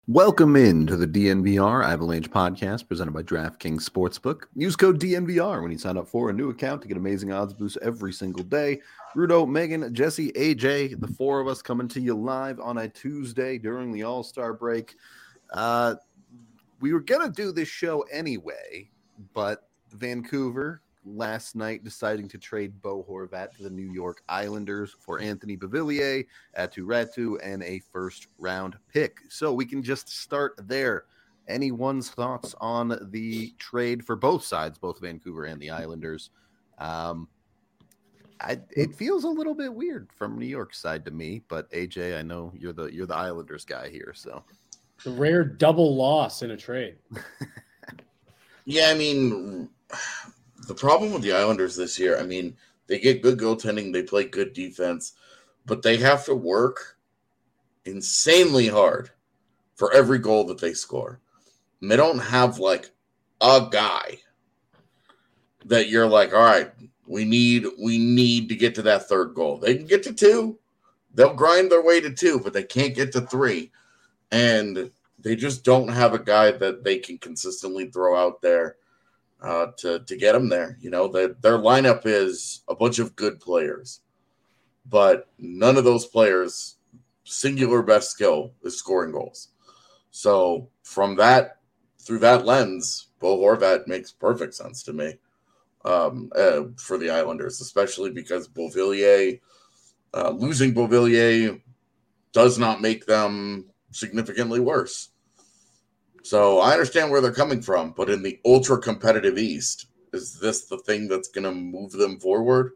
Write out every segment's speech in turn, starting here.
Welcome in to the DNVR Avalanche podcast presented by DraftKings Sportsbook. Use code DNVR when you sign up for a new account to get amazing odds boosts every single day. Rudo, Megan, Jesse, AJ, the four of us coming to you live on a Tuesday during the All-Star break. We were going to do this show anyway, but Vancouver last night deciding to trade Bo Horvat to the New York Islanders for Anthony Beauvillier, Aatu Räty, and a first-round pick. So we can just start there. Anyone's thoughts on the trade for both sides, both Vancouver and the Islanders? It feels a little bit weird from New York's side to me, but AJ, I know you're the Islanders guy here, so the rare double loss in a trade. Yeah, I mean, the problem with the Islanders this year, I mean, they get good goaltending, they play good defense, but they have to work insanely hard for every goal that they score. And they don't have, like, a guy that you're like, all right, we need to get to that third goal. They can get to two. They'll grind their way to two, but they can't get to three. And they just don't have a guy that they can consistently throw out there to get them there. You know, their lineup is a bunch of good players, but none of those players' singular best skill is scoring goals. So through that lens, Bo Horvat makes perfect sense to me for the Islanders, especially because losing Beauvillier does not make them significantly worse. So I understand where they're coming from, but in the ultra competitive East, is this the thing that's going to move them forward?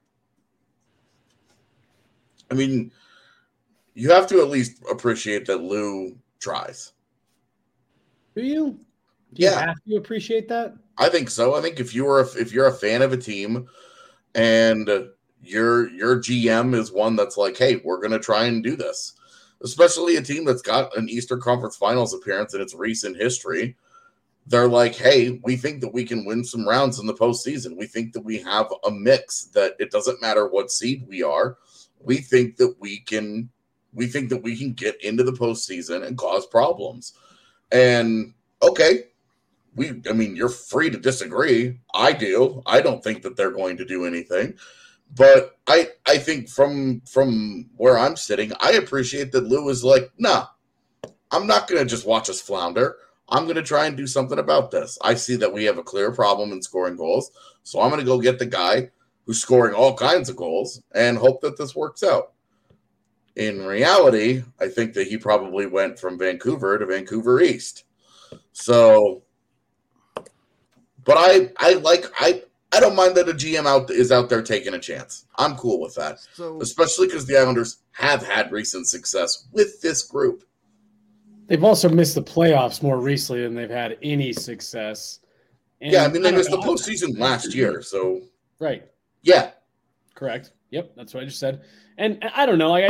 I mean, you have to at least appreciate that Lou tries. Do you? Do you have to appreciate that? I think so. I think if you're a fan of a team and your GM is one that's like, hey, we're going to try and do this. Especially a team that's got an Eastern Conference Finals appearance in its recent history. They're like, hey, we think that we can win some rounds in the postseason. We think that we have a mix that it doesn't matter what seed we are. We think that we can get into the postseason and cause problems. And okay, you're free to disagree. I do. I don't think that they're going to do anything. But I think from where I'm sitting, I appreciate that Lou is like, nah, I'm not going to just watch us flounder. I'm going to try and do something about this. I see that we have a clear problem in scoring goals, so I'm going to go get the guy who's scoring all kinds of goals and hope that this works out. In reality, I think that he probably went from Vancouver to Vancouver East. So, but I don't mind that a GM is out there taking a chance. I'm cool with that, especially because the Islanders have had recent success with this group. They've also missed the playoffs more recently than they've had any success. And they missed the postseason last year. So right, yeah, correct. Yep, that's what I just said. And I don't know. Like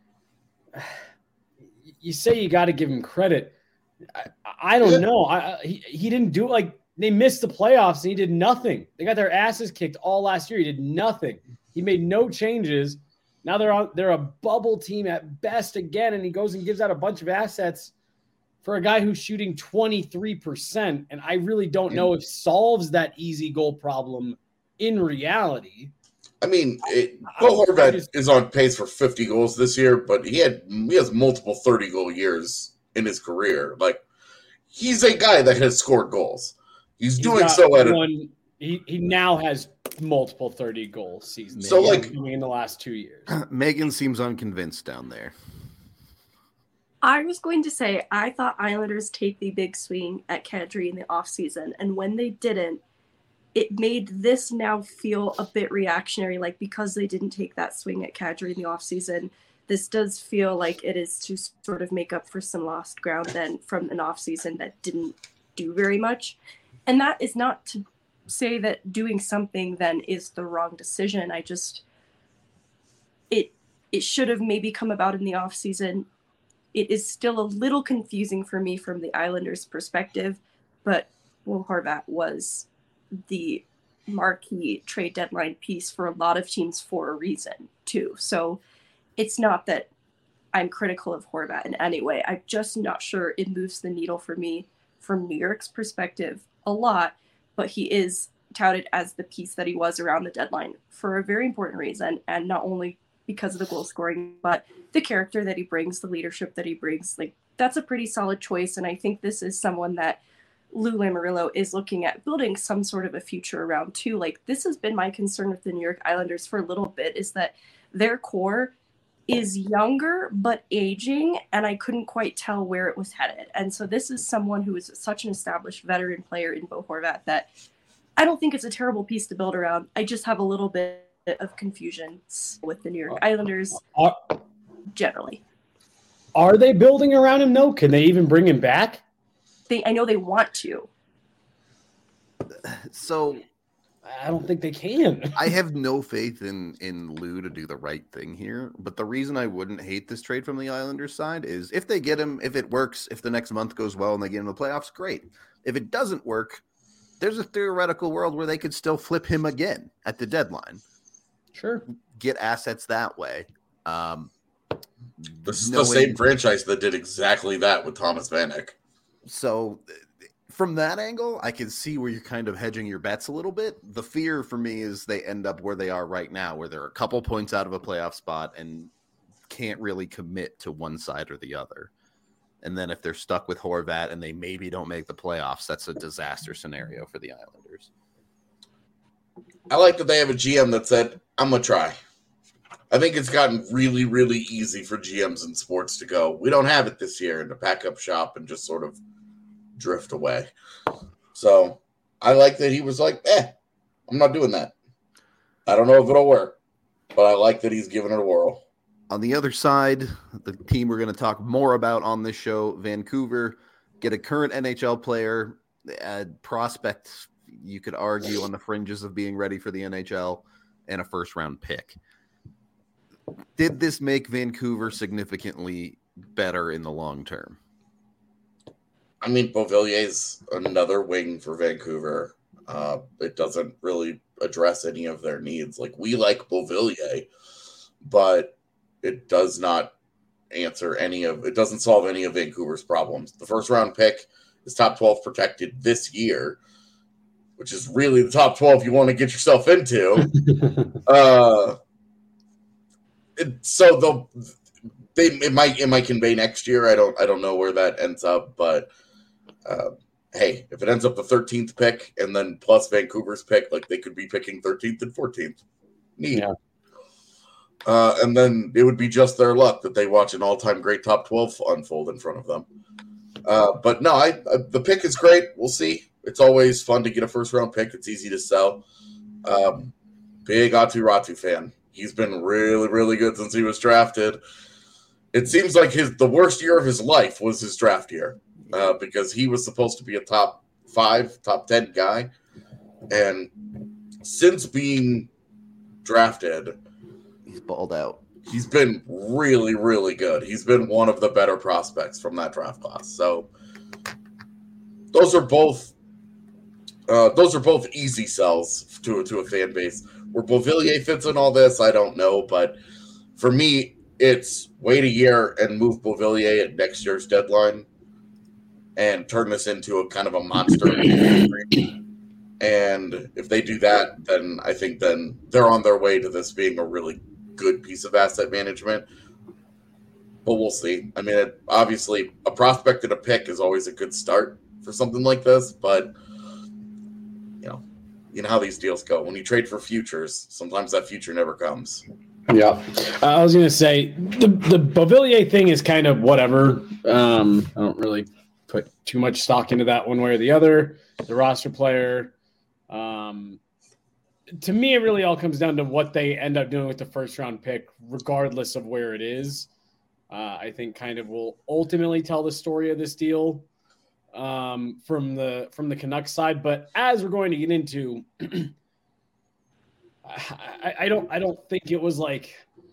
you say you got to give him credit. I don't know. He didn't do it like. They missed the playoffs and he did nothing. They got their asses kicked all last year. He did nothing. He made no changes. Now they're a bubble team at best again, and he goes and gives out a bunch of assets for a guy who's shooting 23%. And I really don't know if solves that easy goal problem in reality. I mean, Bo Horvat is on pace for 50 goals this year, but he has multiple 30-goal years in his career. Like, he's a guy that has scored goals. He's doing so at he now has multiple 30-goal seasons. So in the last 2 years. Megan seems unconvinced down there. I was going to say I thought Islanders take the big swing at Kadri in the offseason, and when they didn't, it made this now feel a bit reactionary. Like, because they didn't take that swing at Kadri in the offseason, this does feel like it is to sort of make up for some lost ground then from an offseason that didn't do very much. And that is not to say that doing something then is the wrong decision. It should have maybe come about in the offseason. It is still a little confusing for me from the Islanders' perspective, but Bo Horvat was the marquee trade deadline piece for a lot of teams for a reason too. So it's not that I'm critical of Horvat in any way. I'm just not sure it moves the needle for me from New York's perspective a lot, but he is touted as the piece that he was around the deadline for a very important reason, and not only because of the goal scoring, but the character that he brings, the leadership that he brings. Like, that's a pretty solid choice, and I think this is someone that Lou Lamoriello is looking at building some sort of a future around too. Like, this has been my concern with the New York Islanders for a little bit, is that their core is younger but aging, and I couldn't quite tell where it was headed. And so this is someone who is such an established veteran player in Bo Horvat that I don't think it's a terrible piece to build around. I just have a little bit of confusion with the New York Islanders generally. Are they building around him? No. Can they even bring him back? I know they want to. So I don't think they can. I have no faith in Lou to do the right thing here. But the reason I wouldn't hate this trade from the Islanders side is if they get him, if it works, if the next month goes well and they get him in the playoffs, great. If it doesn't work, there's a theoretical world where they could still flip him again at the deadline. Sure. Get assets that way. This is the same franchise that did exactly that with Thomas Vanek. So from that angle, I can see where you're kind of hedging your bets a little bit. The fear for me is they end up where they are right now, where they're a couple points out of a playoff spot and can't really commit to one side or the other. And then if they're stuck with Horvat and they maybe don't make the playoffs, that's a disaster scenario for the Islanders. I like that they have a GM that said, I'm going to try. I think it's gotten really, really easy for GMs in sports to go, we don't have it this year, and to pack up shop and just sort of drift away. So I like that he was like, I'm not doing that. I don't know if it'll work, but I like that he's giving it a whirl. On the other side, the team we're going to talk more about on this show, Vancouver, get a current NHL player, prospect, you could argue on the fringes of being ready for the NHL, and a first-round pick. Did this make Vancouver significantly better in the long term? I mean, Beauvillier's another wing for Vancouver. It doesn't really address any of their needs. Like, we like Beauvillier, but it does not answer it doesn't solve any of Vancouver's problems. The first round pick is top 12 protected this year, which is really the top 12 you want to get yourself into. So it might convey next year. I don't know where that ends up, but hey, if it ends up the 13th pick and then plus Vancouver's pick, like, they could be picking 13th and 14th. Neat. Yeah. And then it would be just their luck that they watch an all-time great top 12 unfold in front of them. But no, the pick is great. We'll see. It's always fun to get a first-round pick. It's easy to sell. Big Aatu Räty fan. He's been really, really good since he was drafted. It seems like the worst year of his life was his draft year because he was supposed to be a top 5, top 10 guy. And since being drafted, he's balled out. He's been really, really good. He's been one of the better prospects from that draft class. So those are both easy sells to a fan base. Where Beauvillier fits in all this, I don't know. But for me, it's wait a year and move Beauvillier at next year's deadline and turn this into a kind of a monster. And if they do that, then I think then they're on their way to this being a really good piece of asset management. But we'll see. I mean, obviously, a prospect and a pick is always a good start for something like this. But, you know how these deals go. When you trade for futures, sometimes that future never comes. Yeah. I was going to say, the Beauvillier thing is kind of whatever. I don't really put too much stock into that one way or the other. The roster player. To me, it really all comes down to what they end up doing with the first-round pick, regardless of where it is. I think kind of will ultimately tell the story of this deal from the Canucks side. But as we're going to get into, I don't think it was like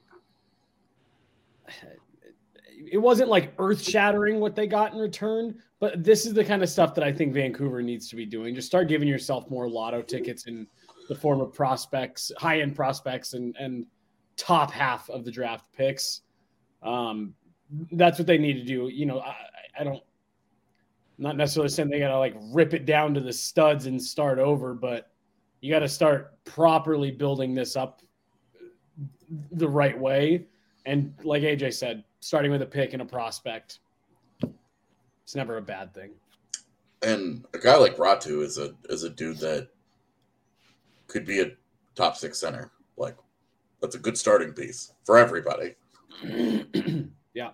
it wasn't like earth-shattering what they got in return. But this is the kind of stuff that I think Vancouver needs to be doing. Just start giving yourself more lotto tickets in the form of prospects, high-end prospects, and top half of the draft picks. that's what they need to do. I don't. I'm not necessarily saying they got to like rip it down to the studs and start over, but you got to start properly building this up the right way. And like AJ said, starting with a pick and a prospect, it's never a bad thing. And a guy like Ratu is a dude that could be a top 6 center. Like, that's a good starting piece for everybody. Yeah.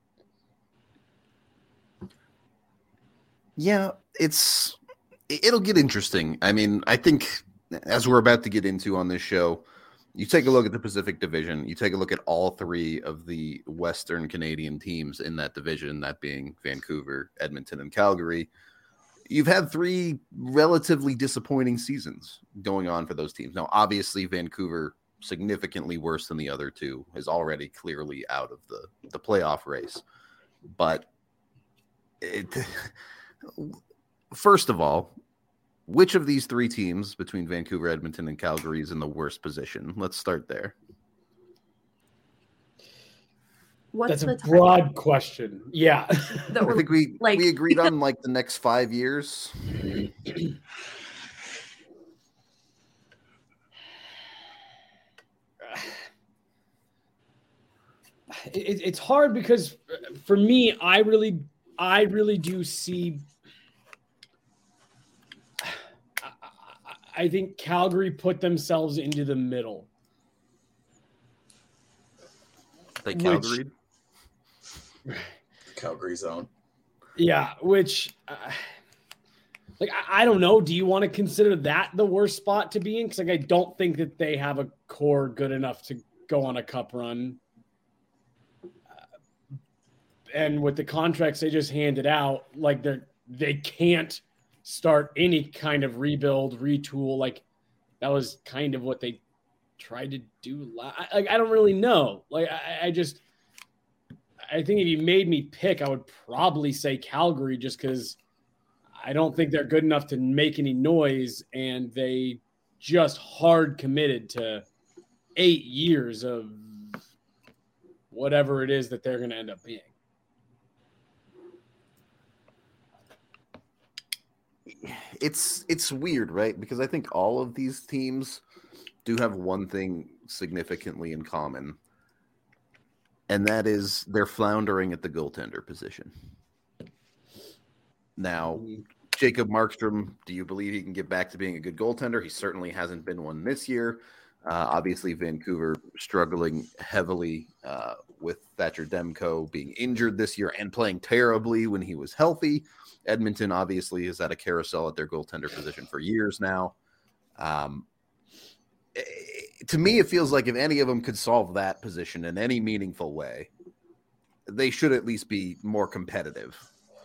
Yeah, it'll get interesting. I mean, I think as we're about to get into on this show, you take a look at the Pacific Division, you take a look at all 3 of the Western Canadian teams in that division, that being Vancouver, Edmonton, and Calgary. You've had 3 relatively disappointing seasons going on for those teams. Now, obviously, Vancouver, significantly worse than the other 2, is already clearly out of the playoff race. But first of all, which of these 3 teams between Vancouver, Edmonton, and Calgary is in the worst position? Let's start there. That's a broad question. Yeah. I think we agreed on like the next 5 years. It's hard because for me, I really do see. I think Calgary put themselves into the middle. They Calgary? Calgary zone. Yeah, which, I don't know. Do you want to consider that the worst spot to be in? Because I don't think that they have a core good enough to go on a cup run. And with the contracts they just handed out, they can't start any kind of rebuild, retool. Like, that was kind of what they tried to do. I don't really know. I think if you made me pick, I would probably say Calgary, just because I don't think they're good enough to make any noise, and they just hard committed to 8 years of whatever it is that they're going to end up being. It's weird, right? Because I think all of these teams do have one thing significantly in common, and that is they're floundering at the goaltender position. Now, Jacob Markstrom, do you believe he can get back to being a good goaltender? He certainly hasn't been one this year. Obviously, Vancouver struggling heavily with Thatcher Demko being injured this year and playing terribly when he was healthy. Edmonton obviously has had a carousel at their goaltender position for years now. To me, it feels like if any of them could solve that position in any meaningful way, they should at least be more competitive.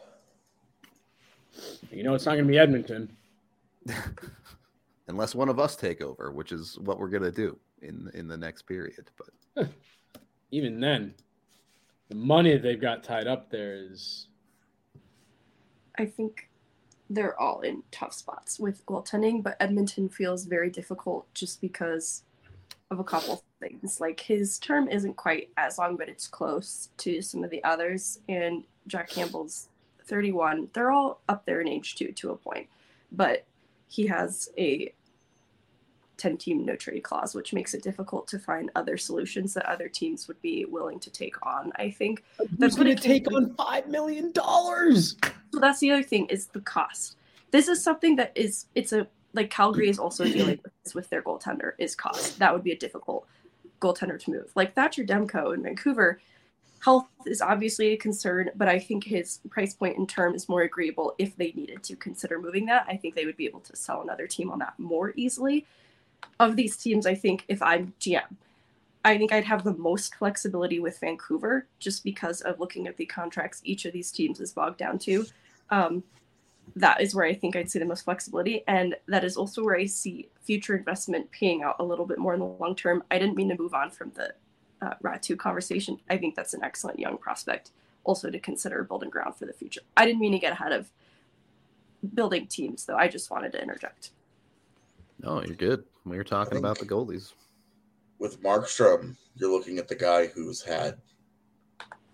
It's not going to be Edmonton. Unless one of us take over, which is what we're going to do in the next period. But even then, the money that they've got tied up there is... I think they're all in tough spots with goaltending, but Edmonton feels very difficult just because of a couple things. Like, his term isn't quite as long, but it's close to some of the others. And Jack Campbell's 31. They're all up there in age too, to a point. But he has a 10-team no-trade clause, which makes it difficult to find other solutions that other teams would be willing to take on. I think that's going to take on $5 million. So that's the other thing, is the cost. This is something that Calgary is also dealing with this with their goaltender, is cost. That would be a difficult goaltender to move. Like Thatcher Demko in Vancouver, health is obviously a concern, but I think his price point and term is more agreeable if they needed to consider moving that. I think they would be able to sell another team on that more easily. Of these teams, I think if I'm GM, I think I'd have the most flexibility with Vancouver, just because of looking at the contracts each of these teams is bogged down to. That is where I think I'd see the most flexibility. And that is also where I see future investment paying out a little bit more in the long term. I didn't mean to move on from the Ratu conversation. I think that's an excellent young prospect also to consider building ground for the future. I didn't mean to get ahead of building teams, though. I just wanted to interject. No, you're good. We were talking about the goalies. With Markstrom, you're looking at the guy who's had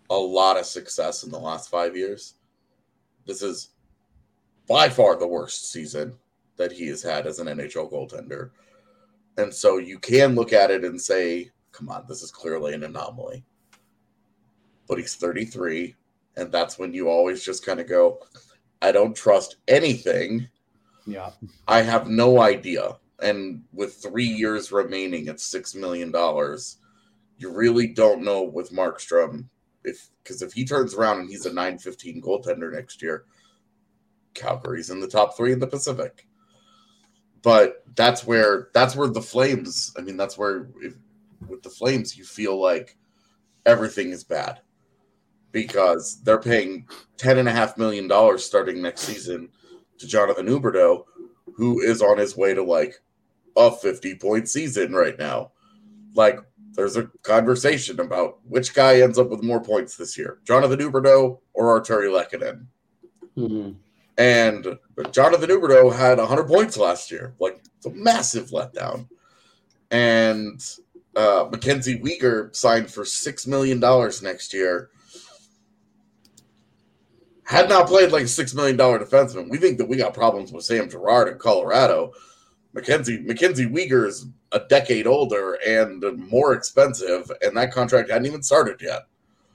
a lot of success in the last 5 years. This is by far the worst season that he has had as an NHL goaltender. And so you can look at it and say, come on, this is clearly an anomaly. But he's 33, and that's when you always just kind of go, I don't trust anything. Yeah. I have no idea. And with 3 years remaining at $6 million, you really don't know with Markstrom. Because if he turns around and he's a .915 goaltender next year, Calgary's in the top 3 in the Pacific. But that's where the Flames, I mean, that's where with the Flames, you feel like everything is bad. Because they're paying $10.5 million starting next season to Jonathan Huberdeau, who is on his way to like a 50-point season right now. Like, there's a conversation about which guy ends up with more points this year, Jonathan Huberdeau or Artturi Lehkonen. Mm-hmm. And Jonathan Huberdeau had 100 points last year. Like, it's a massive letdown. And Mackenzie Weegar signed for $6 million next year. Had not played like a $6 million defenseman. We think that we got problems with Sam Girard in Colorado. Mackenzie Weegar is a decade older and more expensive, and that contract hadn't even started yet.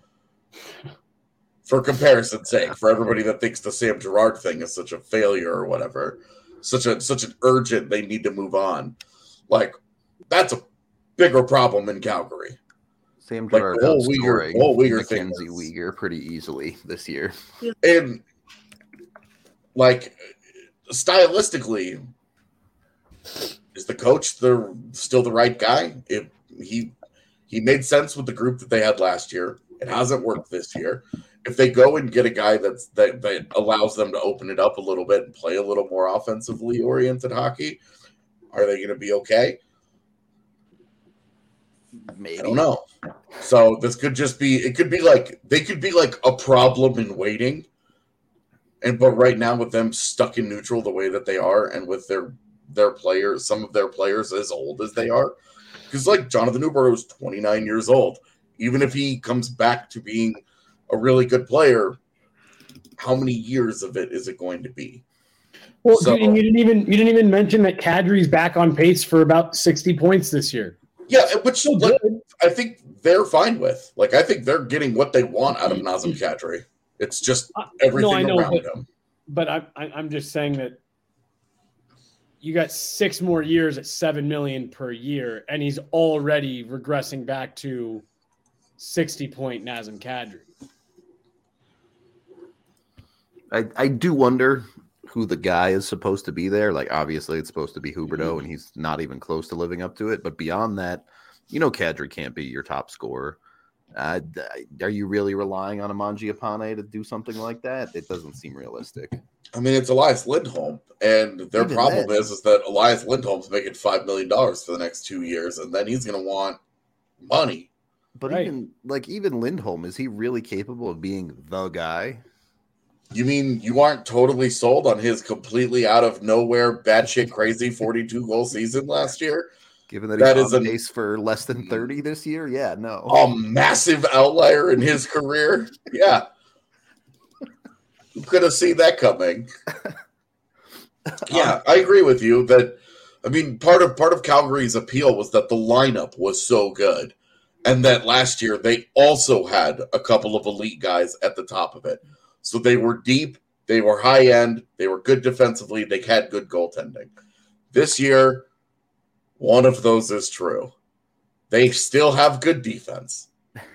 For comparison's sake, for everybody that thinks the Sam Girard thing is such a failure or whatever, such an urgent, they need to move on. Like, that's a bigger problem in Calgary. Sam Girard outscoring Mackenzie Weegar pretty easily this year. And, like, stylistically, is the coach still the right guy? He made sense with the group that they had last year. It hasn't worked this year. If they go and get a guy that allows them to open it up a little bit and play a little more offensively oriented hockey, are they going to be okay? Maybe. I don't know. So this could just be. It could be like they could be like a problem in waiting, but right now with them stuck in neutral the way that they are, and with their players, some of their players as old as they are, because like Jonathan Huberdeau is 29 years old. Even if he comes back to being a really good player, how many years of it is it going to be? Well, and you didn't even mention that Kadri's back on pace for about 60 points this year. Yeah, which I think they're fine with. Like, I think they're getting what they want out of Nazem Kadri. It's just everything around him. But I'm just saying that you got 6 more years at $7 million per year, and he's already regressing back to 60-point Nazem Kadri. I do wonder who the guy is supposed to be there. Like, obviously, it's supposed to be Huberdeau, and he's not even close to living up to it. But beyond that, Kadri can't be your top scorer. Are you really relying on Mangiapane to do something like that? It doesn't seem realistic. I mean, it's Elias Lindholm, and their problem is that Elias Lindholm's making $5 million for the next 2 years, and then he's going to want money. But even Lindholm, is he really capable of being the guy? You mean you aren't totally sold on his completely out of nowhere, batshit crazy 42-goal season last year? Given that he's on pace for less than 30 this year? Yeah, no. A massive outlier in his career? Yeah. Who could have seen that coming? Yeah, I agree with you that, I mean, part of Calgary's appeal was that the lineup was so good, and that last year they also had a couple of elite guys at the top of it. So they were deep, they were high end, they were good defensively, they had good goaltending. This year, one of those is true. They still have good defense.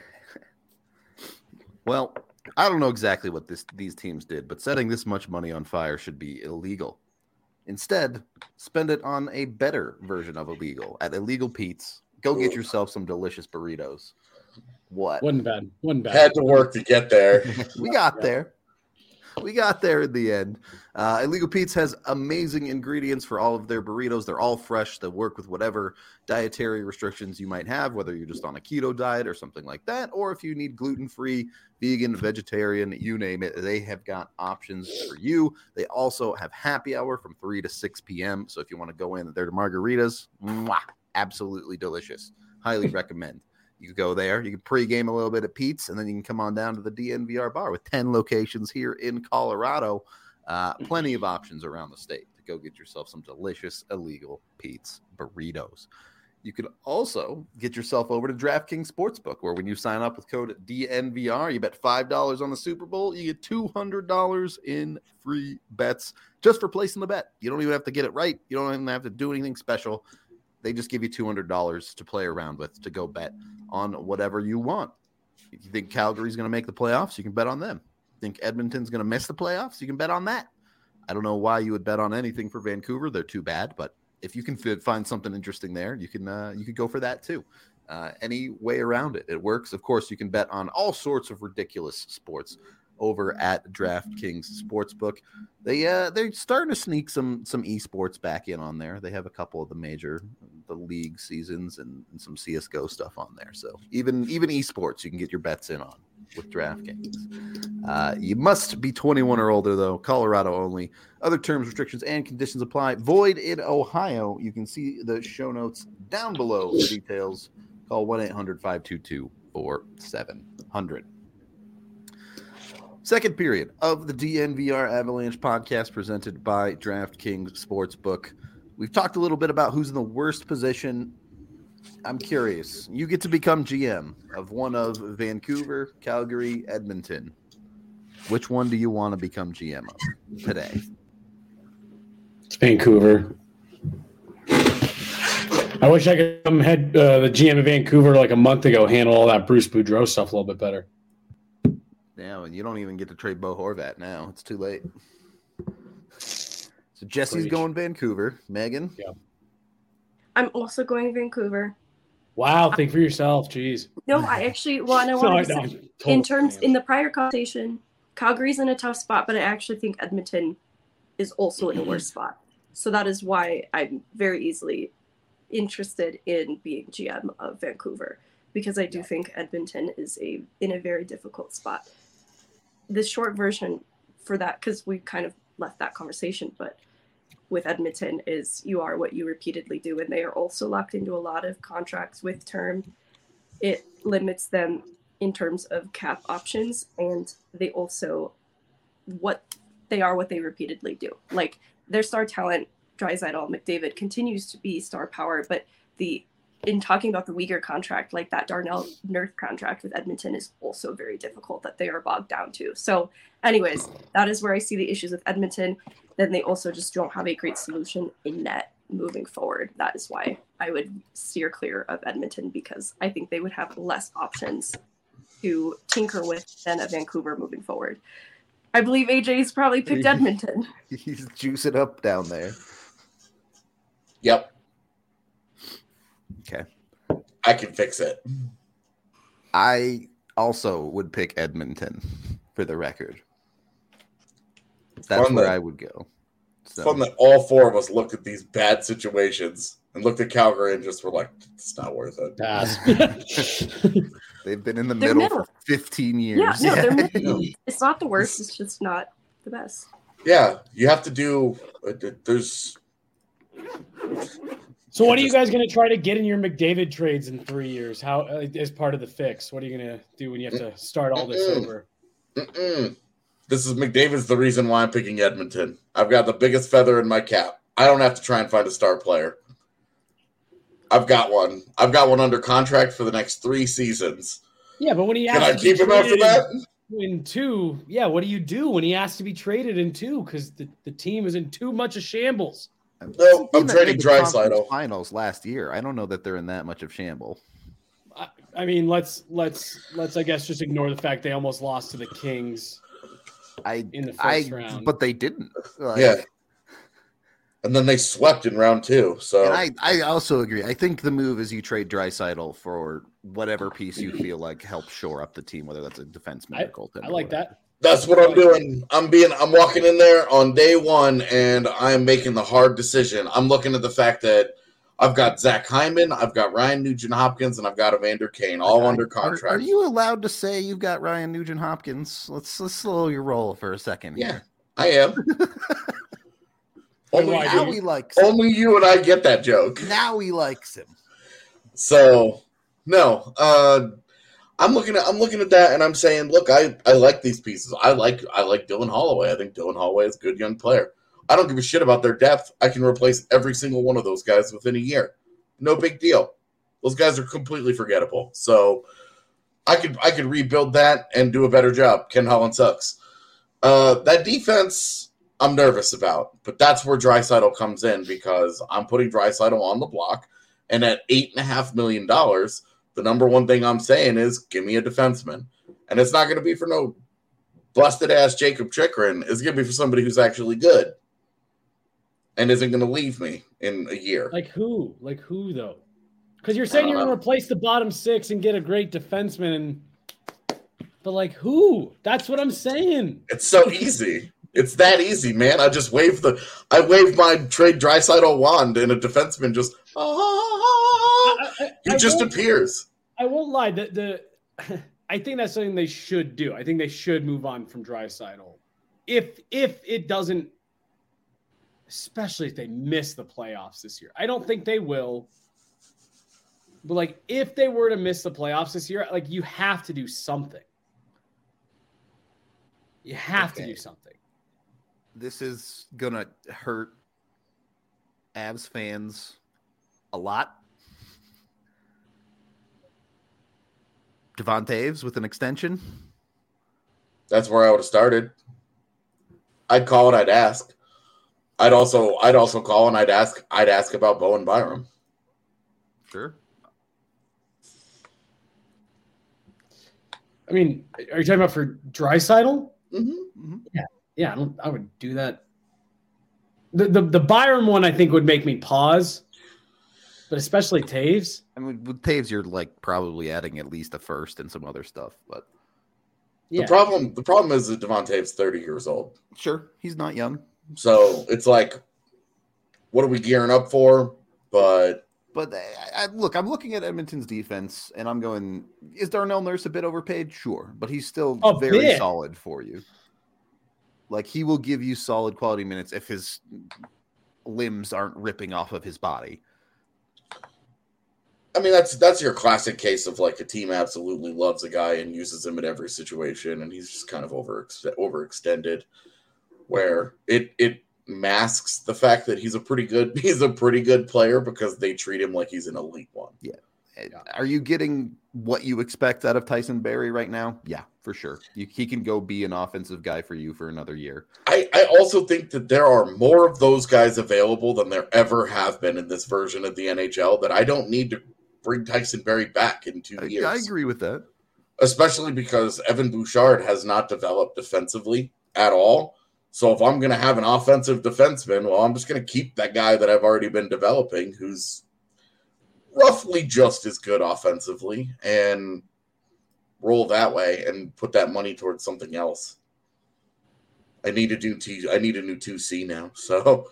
Well, I don't know exactly what these teams did, but setting this much money on fire should be illegal. Instead, spend it on a better version of illegal. At Illegal Pete's, go get yourself some delicious burritos. What? Wasn't bad. Had to work to get there. We got there. We got there in the end. Illegal Pete's has amazing ingredients for all of their burritos. They're all fresh. They work with whatever dietary restrictions you might have, whether you're just on a keto diet or something like that, or if you need gluten-free, vegan, vegetarian, you name it, they have got options for you. They also have happy hour from 3 to 6 p.m. So if you want to go in there to margaritas, absolutely delicious. Highly recommend. You can go there. You can pregame a little bit at Pete's, and then you can come on down to the DNVR bar with 10 locations here in Colorado. Plenty of options around the state to go get yourself some delicious illegal Pete's burritos. You can also get yourself over to DraftKings Sportsbook, where when you sign up with code DNVR, you bet $5 on the Super Bowl, you get $200 in free bets just for placing the bet. You don't even have to get it right. You don't even have to do anything special. They just give you $200 to play around with to go bet on whatever you want. If you think Calgary's going to make the playoffs, you can bet on them. Think Edmonton's going to miss the playoffs, you can bet on that. I don't know why you would bet on anything for Vancouver. They're too bad, but if you can find something interesting there, you could go for that too. Any way around it, it works. Of course, you can bet on all sorts of ridiculous sports over at DraftKings Sportsbook. They're starting to sneak some esports back in on there. They have a couple of the league seasons and some CS:GO stuff on there. So even esports, you can get your bets in on with DraftKings. You must be 21 or older, though. Colorado only. Other terms, restrictions, and conditions apply. Void in Ohio. You can see the show notes down below for details. Call 1-800-522-4700. Second period of the DNVR Avalanche podcast presented by DraftKings Sportsbook. We've talked a little bit about who's in the worst position. I'm curious. You get to become GM of one of Vancouver, Calgary, Edmonton. Which one do you want to become GM of today? It's Vancouver. I wish I could come head the GM of Vancouver like a month ago, handle all that Bruce Boudreau stuff a little bit better. Yeah, and you don't even get to trade Bo Horvat now. It's too late. So Jesse's going Vancouver. Megan? Yeah. I'm also going Vancouver. Wow, think for yourself. Jeez. No, I actually want to say, in the prior conversation, Calgary's in a tough spot, but I actually think Edmonton is also in a worse spot. So that is why I'm very easily interested in being GM of Vancouver, because I do think Edmonton is in a very difficult spot. The short version for that, because we kind of left that conversation, but with Edmonton is you are what you repeatedly do, and they are also locked into a lot of contracts with term. It limits them in terms of cap options, and they also what they repeatedly do. Like their star talent, Draisaitl, McDavid, continues to be star power, but in talking about the Weegar contract, like that Darnell Nurse contract with Edmonton is also very difficult that they are bogged down to. So anyways, that is where I see the issues with Edmonton. Then they also just don't have a great solution in net moving forward. That is why I would steer clear of Edmonton, because I think they would have less options to tinker with than a Vancouver moving forward. I believe AJ's probably picked Edmonton. He's juicing up down there. Yep. Okay. I can fix it. I also would pick Edmonton, for the record. That's where I would go. So. Fun that all four of us looked at these bad situations and looked at Calgary and just were like, it's not worth it. They've been in the middle for 15 years. Yeah, no, it's not the worst. It's just not the best. Yeah, you have to do there's. So what are you guys going to try to get in your McDavid trades in 3 years? How as part of the fix? What are you going to do when you have to start all this over? This is McDavid's the reason why I'm picking Edmonton. I've got the biggest feather in my cap. I don't have to try and find a star player. I've got one. I've got one under contract for the next 3 seasons. Yeah, but when he can I keep him after that? In 2, yeah. What do you do when he asks to be traded in 2? Because the team is in too much of shambles. No, I'm trading Draisaitl. Finals last year. I don't know that they're in that much of shamble. I mean, let's I guess just ignore the fact they almost lost to the Kings. In the first round, but they didn't. Yeah, and then they swept in round 2. So and I also agree. I think the move is you trade Draisaitl for whatever piece you feel like helps shore up the team, whether that's a defenseman or goaltender. I like that. That's what I'm doing. I'm walking in there on day 1, and I'm making the hard decision. I'm looking at the fact that I've got Zach Hyman, I've got Ryan Nugent-Hopkins, and I've got Evander Kane, all under contract. Are you allowed to say you've got Ryan Nugent-Hopkins? Let's slow your roll for a second. Yeah, I am. Only you and I get that joke. Now he likes him. So No. I'm looking at that and I'm saying, look, I like these pieces. I like Dylan Holloway. I think Dylan Holloway is a good young player. I don't give a shit about their depth. I can replace every single one of those guys within a year. No big deal. Those guys are completely forgettable. So I could rebuild that and do a better job. Ken Holland sucks. That defense I'm nervous about, but that's where Draisaitl comes in because I'm putting Draisaitl on the block, and at $8.5 million, the number one thing I'm saying is give me a defenseman. And it's not going to be for no busted-ass Jacob Chikrin. It's going to be for somebody who's actually good and isn't going to leave me in a year. Like who? Like who, though? Because you're saying you're going to replace the bottom six and get a great defenseman. But, like, who? That's what I'm saying. It's so easy. It's that easy, man. I just waved my trade Draisaitl wand and a defenseman just appears. I won't lie. I think that's something they should do. I think they should move on from Draisaitl. If it doesn't, especially if they miss the playoffs this year. I don't think they will. But, like, if they were to miss the playoffs this year, like, you have to do something. You have to do something. This is going to hurt Avs fans a lot. Devon Toews with an extension. That's where I would have started. I'd call and I'd ask. I'd also call and I'd ask about Bowen Byram. Sure. I mean, are you talking about for Draisaitl? Mm-hmm. Yeah. I would do that. The Byram one I think would make me pause, but especially Toews. I mean, with Toews, you're like probably adding at least a first and some other stuff, but the problem is that Devon Toews 30 years old. Sure, he's not young, so it's like, what are we gearing up for? But look, I'm looking at Edmonton's defense, and I'm going, is Darnell Nurse a bit overpaid? Sure, but he's still very solid for you. Like, he will give you solid quality minutes if his limbs aren't ripping off of his body. I mean, that's your classic case of, like, a team absolutely loves a guy and uses him in every situation, and he's just kind of overextended, where it masks the fact that he's a pretty good player because they treat him like he's an elite one. Yeah. Are you getting what you expect out of Tyson Barrie right now? Yeah, for sure. He can go be an offensive guy for you for another year. I also think that there are more of those guys available than there ever have been in this version of the NHL, that I don't need to bring Tyson Barrie back in 2 years. I agree with that. Especially because Evan Bouchard has not developed defensively at all. So if I'm going to have an offensive defenseman, well, I'm just going to keep that guy that I've already been developing who's roughly just as good offensively and roll that way and put that money towards something else. I need a new 2C now. So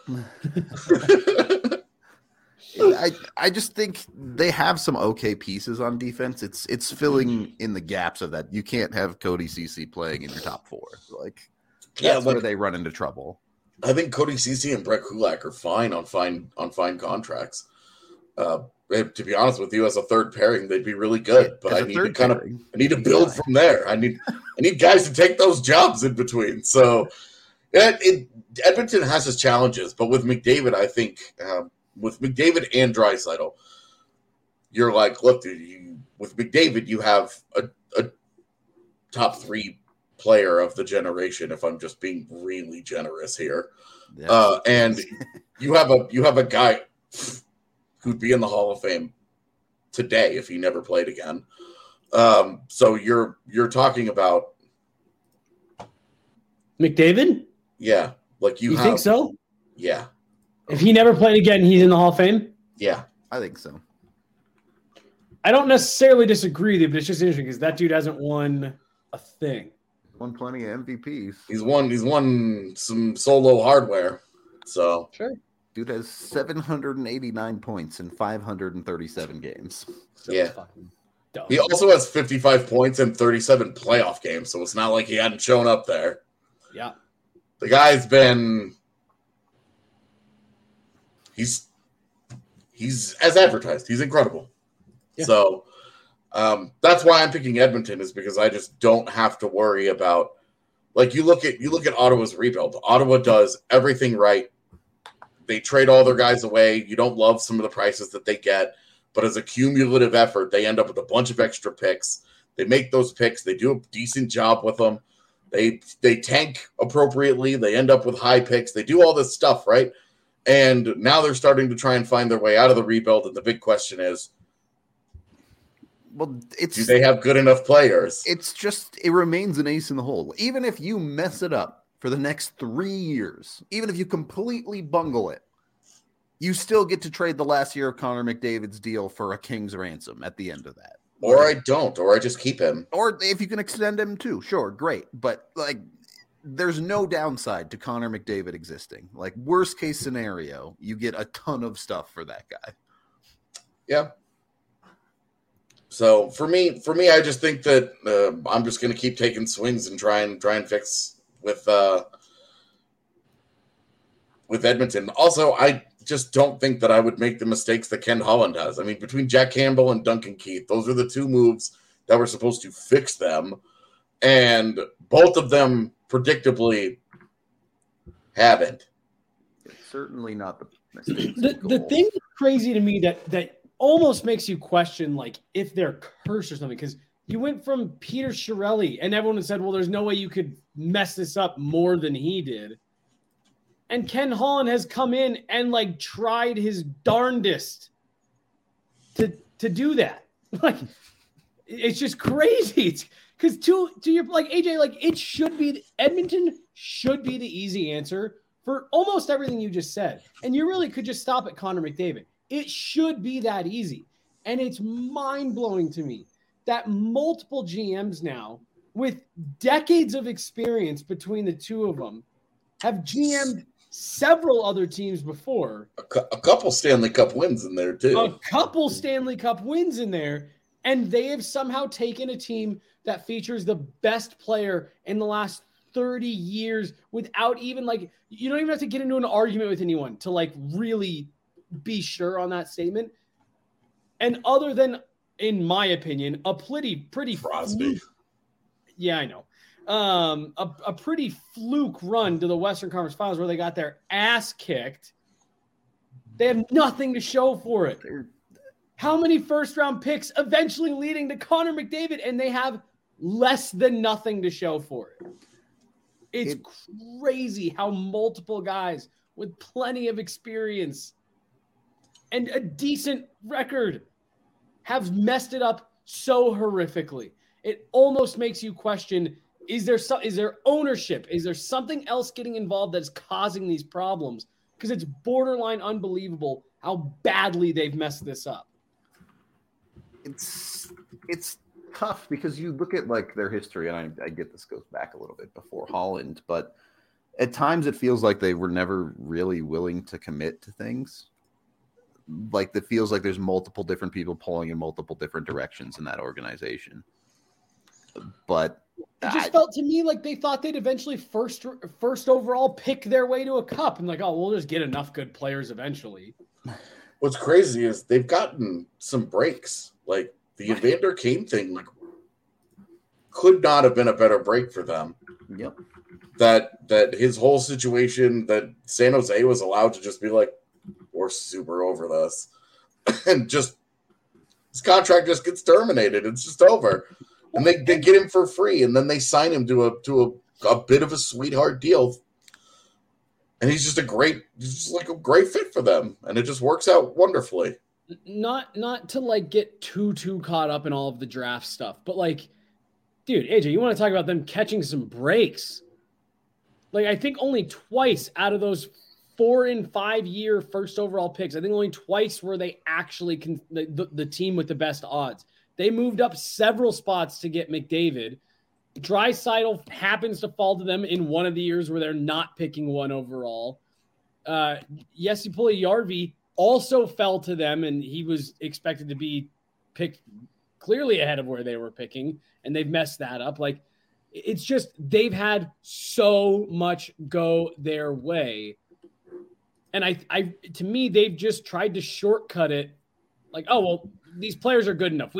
I just think they have some okay pieces on defense. It's filling in the gaps of that. You can't have Cody Ceci playing in your top four. That's where they run into trouble. I think Cody Ceci and Brett Kulak are fine on fine contracts. To be honest with you, as a third pairing, they'd be really good. But I need to build from there. I need guys to take those jobs in between. So Edmonton has its challenges, but with McDavid, I think with McDavid and Draisaitl, you're like, look, dude, with McDavid, you have a top three player of the generation. If I'm just being really generous here, and you have a guy who'd be in the Hall of Fame today if he never played again. So you're talking about McDavid? Yeah. Like you think so? Yeah. If he never played again, he's in the Hall of Fame? Yeah. I think so. I don't necessarily disagree with you, but it's just interesting because that dude hasn't won a thing. Won plenty of MVPs. He's won some solo hardware. So sure. Dude has 789 points in 537 games. Yeah. He also has 55 points in 37 playoff games, so it's not like he hadn't shown up there. Yeah. The guy's been he's as advertised. He's incredible. Yeah. So That's why I'm picking Edmonton, is because I just don't have to worry about, like, you look at Ottawa's rebuild. Ottawa does everything right. They trade all their guys away. You don't love some of the prices that they get, but as a cumulative effort, they end up with a bunch of extra picks. They make those picks. They do a decent job with them. They tank appropriately. They end up with high picks. They do all this stuff, right? And now they're starting to try and find their way out of the rebuild. And the big question is, well, do they have good enough players? It remains an ace in the hole. Even if you mess it up for the next 3 years, even if you completely bungle it, you still get to trade the last year of Connor McDavid's deal for a king's ransom at the end of that. Or I don't, or I just keep him. Or if you can extend him too, sure, great. But like, there's no downside to Connor McDavid existing. Like, worst case scenario, you get a ton of stuff for that guy. Yeah. So for me, I just think that I'm just going to keep taking swings and try and fix with Edmonton. Also, I just don't think that I would make the mistakes that Ken Holland has. I mean, between Jack Campbell and Duncan Keith, those are the two moves that were supposed to fix them, and both of them predictably haven't. It's certainly not the mistakes. The thing that's crazy to me that almost makes you question, like, if they're cursed or something, because you went from Peter Chiarelli, and everyone said, well, there's no way you could mess this up more than he did. And Ken Holland has come in and, like, tried his darndest to do that. Like, it's just crazy. Because to your, like, AJ, like, it should be Edmonton should be the easy answer for almost everything you just said. And you really could just stop at Connor McDavid. It should be that easy. And it's mind-blowing to me that multiple GMs now, with decades of experience between the two of them, have GM'd several other teams before. A couple Stanley Cup wins in there, too. A couple Stanley Cup wins in there. And they have somehow taken a team that features the best player in the last 30 years without even, like, you don't even have to get into an argument with anyone to, like, really be sure on that statement. And other than, in my opinion, a pretty Crosby. Yeah, I know. A pretty fluke run to the Western Conference Finals where they got their ass kicked. They have nothing to show for it. How many first-round picks eventually leading to Connor McDavid, and they have less than nothing to show for it? It's crazy how multiple guys with plenty of experience and a decent record have messed it up so horrifically. It almost makes you question, is there ownership? Is there something else getting involved that's causing these problems? Because it's borderline unbelievable how badly they've messed this up. It's tough because you look at, like, their history, and I get this goes back a little bit before Holland, but at times it feels like they were never really willing to commit to things. Like, it feels like there's multiple different people pulling in multiple different directions in that organization. But it just felt to me like they thought they'd eventually first overall pick their way to a cup, and like, oh, we'll just get enough good players eventually. What's crazy is they've gotten some breaks. Like, the Evander Kane thing, like, could not have been a better break for them. Yep. That his whole situation, that San Jose was allowed to just be like, we're super over this. And just his contract just gets terminated. It's just over. And they get him for free, and then they sign him to a bit of a sweetheart deal. And he's just a great fit for them. And it just works out wonderfully. Not to, like, get too caught up in all of the draft stuff, but, like, dude, AJ, you want to talk about them catching some breaks? Like, I think only twice out of those 4 and 5 year first overall picks, I think only twice were they actually the team with the best odds. They moved up several spots to get McDavid. Draisaitl happens to fall to them in one of the years where they're not picking 1 overall. Jesse Puljujarvi also fell to them, and he was expected to be picked clearly ahead of where they were picking, and they've messed that up. Like, it's just they've had so much go their way. And I to me, they've just tried to shortcut it. Like, oh, well, these players are good enough. We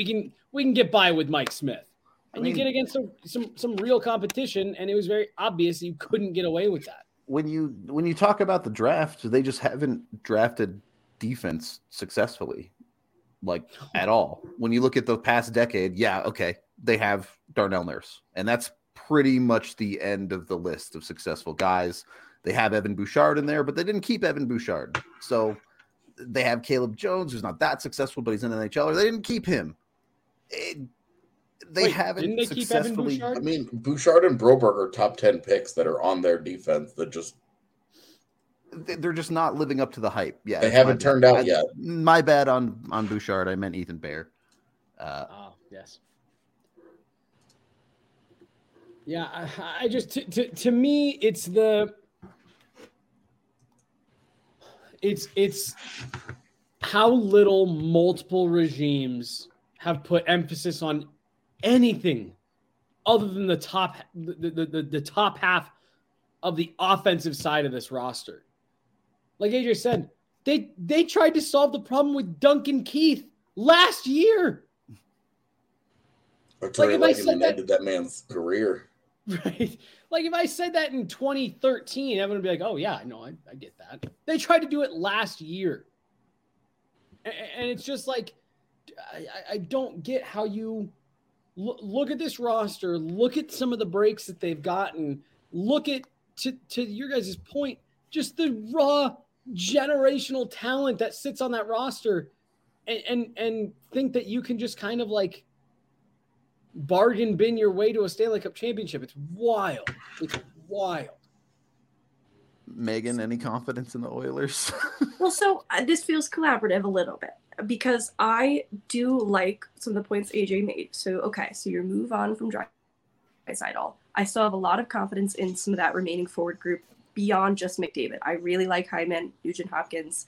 we can get by with Mike Smith. And you get against some real competition, and it was very obvious you couldn't get away with that. When you talk about the draft, they just haven't drafted defense successfully, like at all. When you look at the past decade, yeah, okay, they have Darnell Nurse, and that's pretty much the end of the list of successful guys. They have Evan Bouchard in there, but they didn't keep Evan Bouchard. So they have Caleb Jones, who's not that successful, but he's an NHLer. They didn't keep him. They haven't didn't they successfully. keep Evan Bouchard? I mean, Bouchard and Broberg are top 10 picks that are on their defense that just They're just not living up to the hype. Yeah, they haven't turned out yet. My bad on Bouchard. I meant Ethan Bear. Yes. Yeah, I just to me it's how little multiple regimes have put emphasis on anything other than the top half of the offensive side of this roster. Like AJ said, they tried to solve the problem with Duncan Keith last year. Arturi Lehkonen ended that man's career. Right. Like if I said that in 2013, everyone would be like, oh yeah, no, I get that. They tried to do it last year. And it's just like, I don't get how you look at this roster, look at some of the breaks that they've gotten, look at, to your guys' point, just the raw generational talent that sits on that roster and think that you can just kind of like bargain bin your way to a Stanley Cup championship. It's wild. It's wild. Megan, any confidence in the Oilers? Well, so this feels collaborative a little bit because I do like some of the points AJ made. So, okay, so you move on from Draisaitl. I still have a lot of confidence in some of that remaining forward group beyond just McDavid. I really like Hyman, Nugent Hopkins.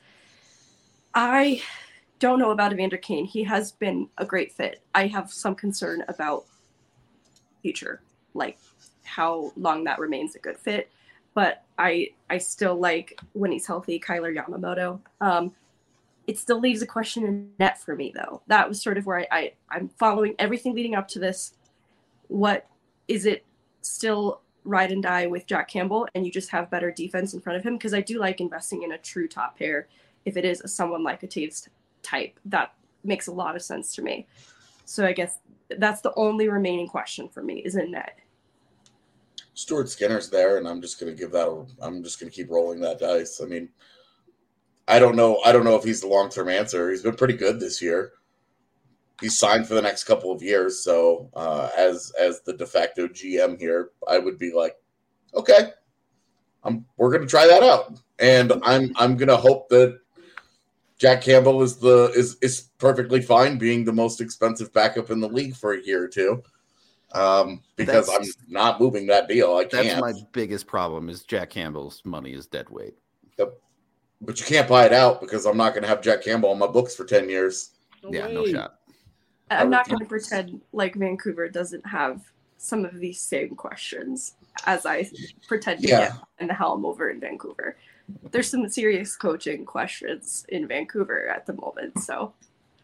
I don't know about Evander Kane. He has been a great fit. I have some concern about future, like how long that remains a good fit. But I still like when he's healthy, Kyler Yamamoto. It still leaves a question in net for me, though. That was sort of where I'm following everything leading up to this. What is it still ride and die with Jack Campbell and you just have better defense in front of him? Because I do like investing in a true top pair. If it is someone like a Taves type, that makes a lot of sense to me. So I guess that's the only remaining question for me is in net. Stuart Skinner's there, and I'm just going to keep rolling that dice. I mean, I don't know if he's the long-term answer. He's been pretty good this year. He's signed for the next couple of years, so as the de facto GM here, I would be like, okay, we're going to try that out, and I'm going to hope that Jack Campbell is perfectly fine being the most expensive backup in the league for a year or two. Because I'm not moving that deal. I can't. That's my biggest problem is Jack Campbell's money is dead weight. Yep. But you can't buy it out because I'm not going to have Jack Campbell on my books for 10 years. No shot. I'm not going to pretend like Vancouver doesn't have some of these same questions as I pretend to get in the helm over in Vancouver. There's some serious coaching questions in Vancouver at the moment. So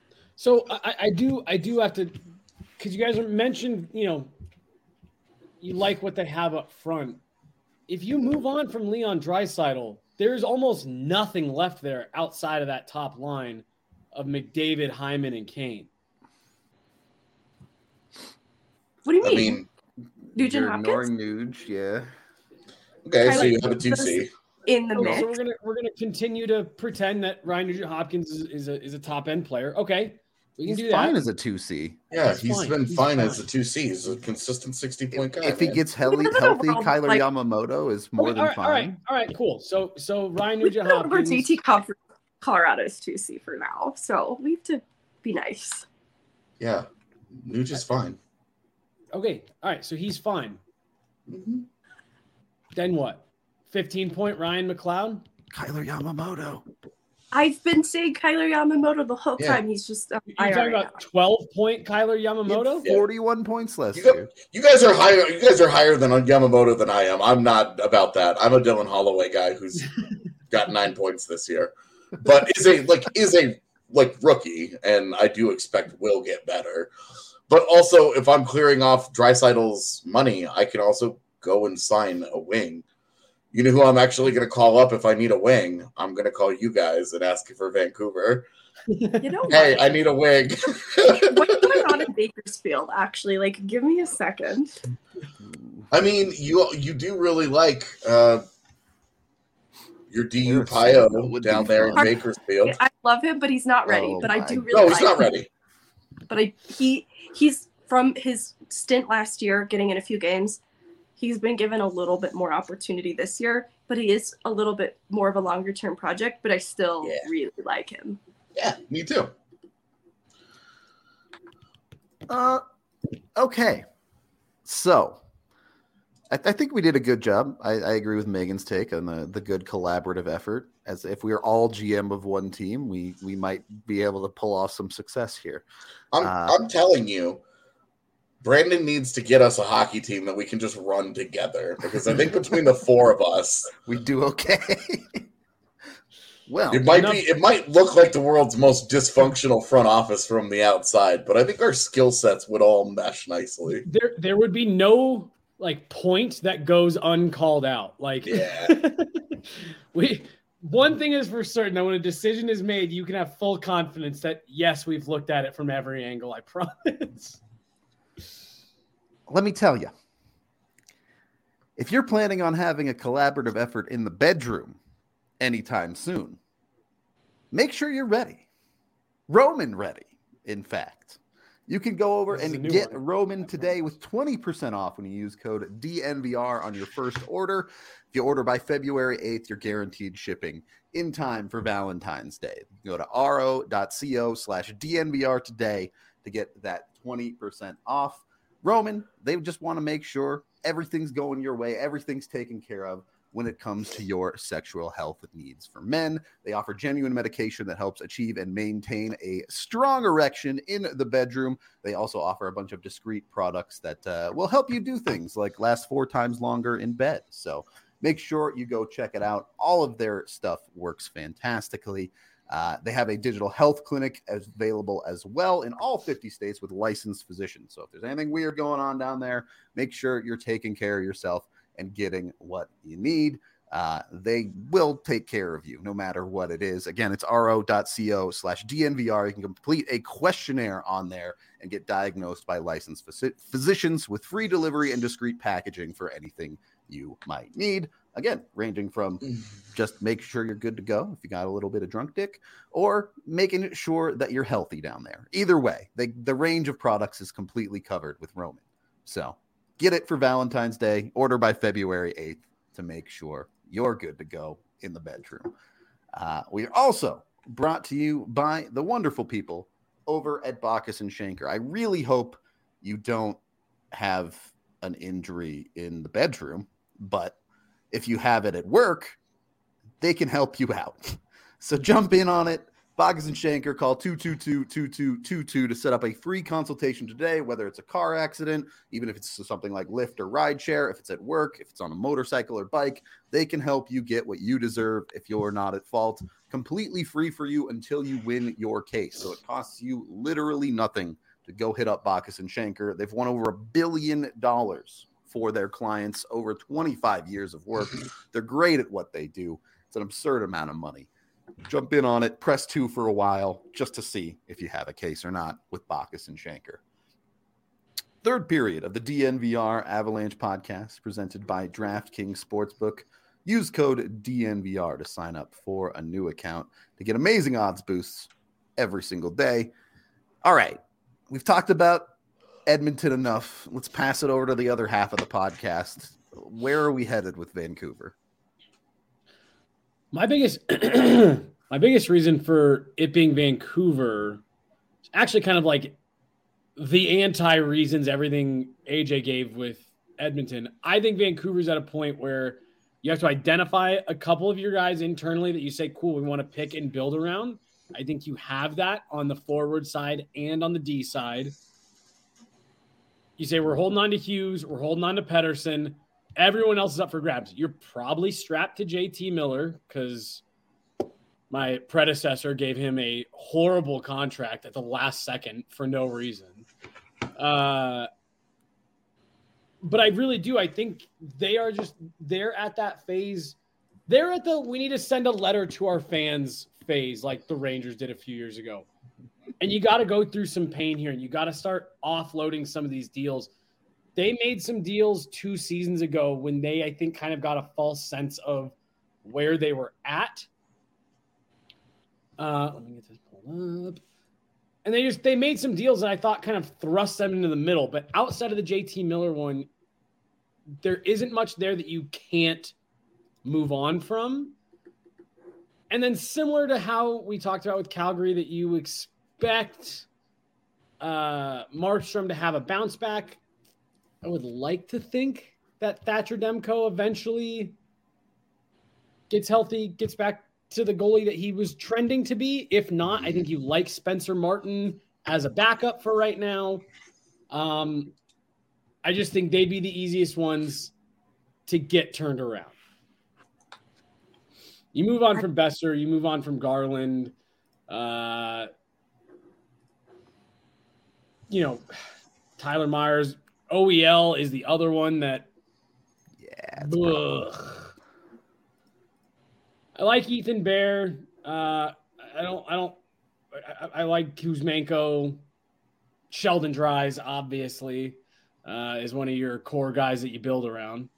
I do have to, because you guys mentioned, you like what they have up front. If you move on from Leon Draisaitl, there's almost nothing left there outside of that top line of McDavid, Hyman, and Kane. What do you mean? I mean, Nugent Hopkins? Nuge, yeah. Okay, so you have a 2C. In the mix. So we're gonna continue to pretend that Ryan Nugent Hopkins is a top end player. Okay. We can do that. Fine as a 2C. Yeah, he's been fine as a 2C. He's a consistent 60-point guy. If he gets healthy, Kyler Yamamoto is more than fine. All right, cool. So Ryan Nugent Hopkins. JT Comfort, Colorado's 2C for now, so we have to be nice. Yeah, Nugent's fine. Okay, all right, so he's fine. Mm-hmm. Then what? 15-point Ryan McLeod? Kyler Yamamoto. I've been saying Kyler Yamamoto the whole time. He's just you're talking about 12-point Kyler Yamamoto? 41 points last year. You guys are higher. You guys are higher than Yamamoto than I am. I'm not about that. I'm a Dylan Holloway guy who's got 9 points this year, but is a rookie, and I do expect will get better. But also, if I'm clearing off Draisaitl's money, I can also go and sign a wing. You know who I'm actually going to call up if I need a wing? I'm going to call you guys and ask you for Vancouver. You know Hey, what? I need a wing. What's going on in Bakersfield, actually? Like, give me a second. I mean, you do really like your DU Pio down there in Bakersfield. I love him, but he's not ready. Oh but I do my really No, he's like not him. ready. But he's from his stint last year, getting in a few games. He's been given a little bit more opportunity this year, but he is a little bit more of a longer term project. But I still really like him. Yeah, me too. Okay. So I think we did a good job. I agree with Megan's take on the good collaborative effort. As if we were all GM of one team, we might be able to pull off some success here. I'm telling you, Brandon needs to get us a hockey team that we can just run together, because I think between the four of us, we do okay. Well, it might look like the world's most dysfunctional front office from the outside, but I think our skill sets would all mesh nicely. There would be no point that goes uncalled out. One thing is for certain, that when a decision is made, you can have full confidence that yes, we've looked at it from every angle. I promise. Let me tell you, if you're planning on having a collaborative effort in the bedroom anytime soon, make sure you're ready. Roman ready, in fact. You can go over and get Roman today with 20% off when you use code DNVR on your first order. If you order by February 8th, you're guaranteed shipping in time for Valentine's Day. Go to ro.co/DNVR today to get that 20% off. Roman, they just want to make sure everything's going your way, everything's taken care of when it comes to your sexual health needs. For men, they offer genuine medication that helps achieve and maintain a strong erection in the bedroom. They also offer a bunch of discreet products that will help you do things like last 4 times longer in bed. So make sure you go check it out. All of their stuff works fantastically. They have a digital health clinic available as well in all 50 states with licensed physicians. So if there's anything weird going on down there, make sure you're taking care of yourself and getting what you need. They will take care of you no matter what it is. Again, it's ro.co/DNVR. You can complete a questionnaire on there and get diagnosed by licensed physicians with free delivery and discreet packaging for anything you might need. Again, ranging from just make sure you're good to go if you got a little bit of drunk dick, or making sure that you're healthy down there. Either way, the range of products is completely covered with Roman. So get it for Valentine's Day. Order by February 8th to make sure you're good to go in the bedroom. We are also brought to you by the wonderful people over at Bacchus and Schenker. I really hope you don't have an injury in the bedroom, but if you have it at work, they can help you out. So jump in on it. Bacchus and Schenker, call 222-2222 to set up a free consultation today, whether it's a car accident, even if it's something like Lyft or rideshare, if it's at work, if it's on a motorcycle or bike, they can help you get what you deserve if you're not at fault. Completely free for you until you win your case. So it costs you literally nothing to go hit up Bacchus and Schenker. They've won over $1 billion for their clients, over 25 years of work. They're great at what they do. It's an absurd amount of money. Jump in on it, press 2 for a while just to see if you have a case or not with Bacchus and Schenker. Third period of the DNVR Avalanche podcast presented by DraftKings Sportsbook. Use code DNVR to sign up for a new account to get amazing odds boosts every single day. All right, we've talked about Edmonton enough. Let's pass it over to the other half of the podcast. Where are we headed with Vancouver? My biggest reason for it being Vancouver is actually kind of like the anti-reasons everything AJ gave with Edmonton. I think Vancouver's at a point where you have to identify a couple of your guys internally that you say, cool, we want to pick and build around. I think you have that on the forward side and on the D side. You say, we're holding on to Hughes, we're holding on to Pettersson. Everyone else is up for grabs. You're probably strapped to JT Miller because my predecessor gave him a horrible contract at the last second for no reason. But I really do. I think they're at that phase. They're at the we need to send a letter to our fans phase like the Rangers did a few years ago. And you got to go through some pain here, and you got to start offloading some of these deals. They made some deals 2 seasons ago when they, I think, kind of got a false sense of where they were at. Let me get this pulled up. And they made some deals that I thought kind of thrust them into the middle. But outside of the JT Miller one, there isn't much there that you can't move on from. And then similar to how we talked about with Calgary, that you expect Markstrom to have a bounce back. I would like to think that Thatcher Demko eventually gets healthy, gets back to the goalie that he was trending to be. If not, I think you like Spencer Martin as a backup for right now. I just think they'd be the easiest ones to get turned around. You move on from Besser, you move on from Garland. Tyler Myers, OEL is the other one that. Yeah. I like Ethan Bear. I like Kuzmenko. Sheldon Dries, obviously, is one of your core guys that you build around.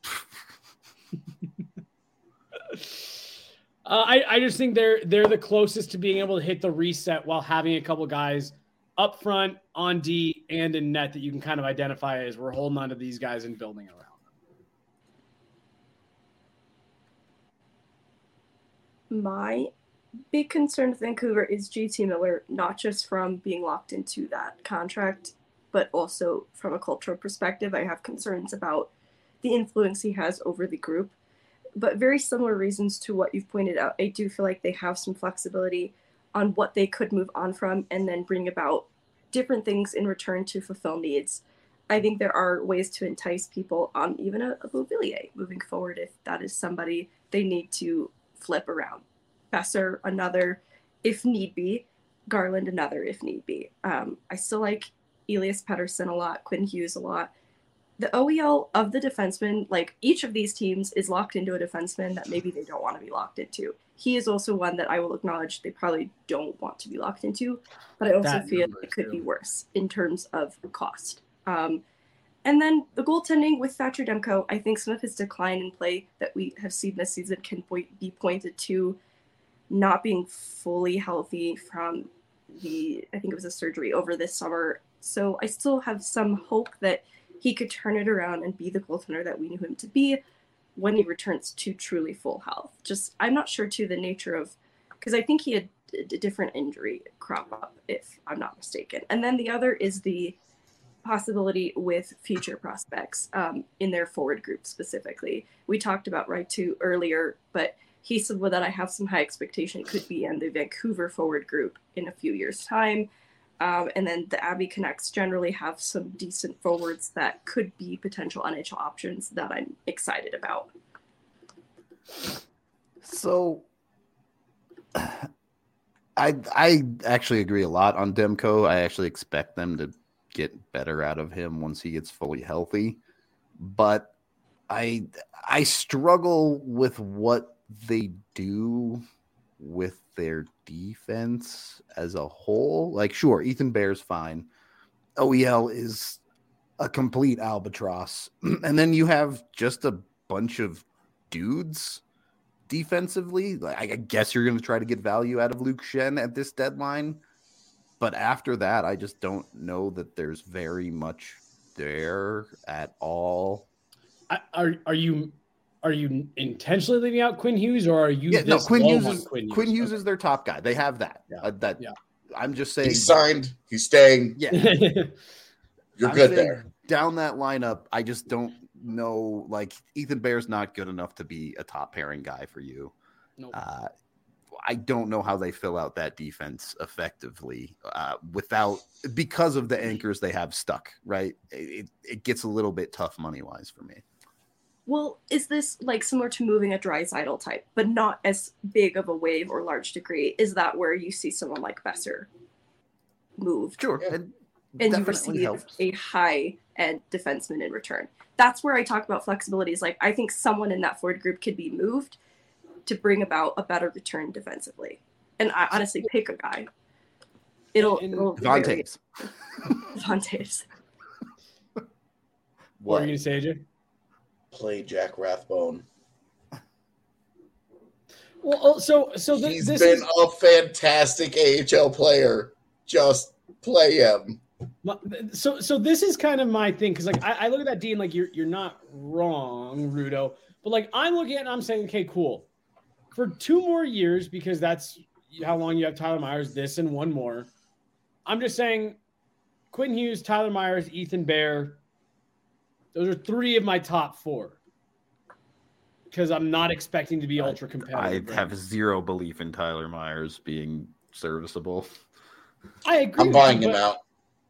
I just think they're the closest to being able to hit the reset while having a couple guys up front, on D, and in net that you can kind of identify as we're holding on to these guys and building around them. My big concern with Vancouver is JT Miller, not just from being locked into that contract, but also from a cultural perspective. I have concerns about the influence he has over the group. But very similar reasons to what you've pointed out. I do feel like they have some flexibility on what they could move on from and then bring about different things in return to fulfill needs. I think there are ways to entice people on even a Beauvillier moving forward if that is somebody they need to flip around. Besser, another, if need be. Garland, another, if need be. I still like Elias Pettersson a lot, Quinn Hughes a lot. The OEL of the defenseman, like each of these teams is locked into a defenseman that maybe they don't want to be locked into. He is also one that I will acknowledge they probably don't want to be locked into, but I also feel it could be worse in terms of cost. And then the goaltending with Thatcher Demko, I think some of his decline in play that we have seen this season can be pointed to not being fully healthy from I think it was a surgery over this summer. So I still have some hope that he could turn it around and be the goaltender that we knew him to be when he returns to truly full health. Just, I'm not sure to the nature of, because I think he had a different injury crop up, if I'm not mistaken. And then the other is the possibility with future prospects in their forward group specifically. We talked about Raitu earlier, but he said that I have some high expectation could be in the Vancouver forward group in a few years' time. And then the Abbey Canucks generally have some decent forwards that could be potential NHL options that I'm excited about. So I actually agree a lot on Demko. I actually expect them to get better out of him once he gets fully healthy. But I struggle with what they do with their defense as a whole. Like, sure, Ethan Bear's fine. OEL is a complete albatross. And then you have just a bunch of dudes defensively. Like, I guess you're going to try to get value out of Luke Schenn at this deadline. But after that, I just don't know that there's very much there at all. Are you intentionally leaving out Quinn Hughes, or are you? Yeah, no. Quinn Hughes is their top guy. They have that. Yeah. I'm just saying. He's signed. He's staying. Yeah, you're good there. Down that lineup, I just don't know. Like, Ethan Bear's not good enough to be a top pairing guy for you. Nope. I don't know how they fill out that defense effectively because of the anchors they have stuck. Right, it gets a little bit tough money wise for me. Well, is this like similar to moving a Draisaitl type, but not as big of a wave or large degree? Is that where you see someone like Besser move? Sure. Yeah. And and you Definitely receive helps. a high-end defenseman in return. That's where I talk about flexibility. Is like, I think someone in that forward group could be moved to bring about a better return defensively. And I honestly pick a guy. It'll Devon Taves. Devon Taves. What are you going to say, AJ? Play Jack Rathbone. Well, so He's this been is a fantastic AHL player. Just play him. so this is kind of my thing, because like I look at that D and like you're not wrong, Rudo, but like I'm looking at it and I'm saying, okay, cool, for 2 more years, because that's how long you have Tyler Myers, this and 1 more. I'm just saying, Quinn Hughes, Tyler Myers, Ethan Bear. Those are 3 of my top 4. Because I'm not expecting to be ultra competitive. I have zero belief in Tyler Myers being serviceable. I agree. I'm buying him out.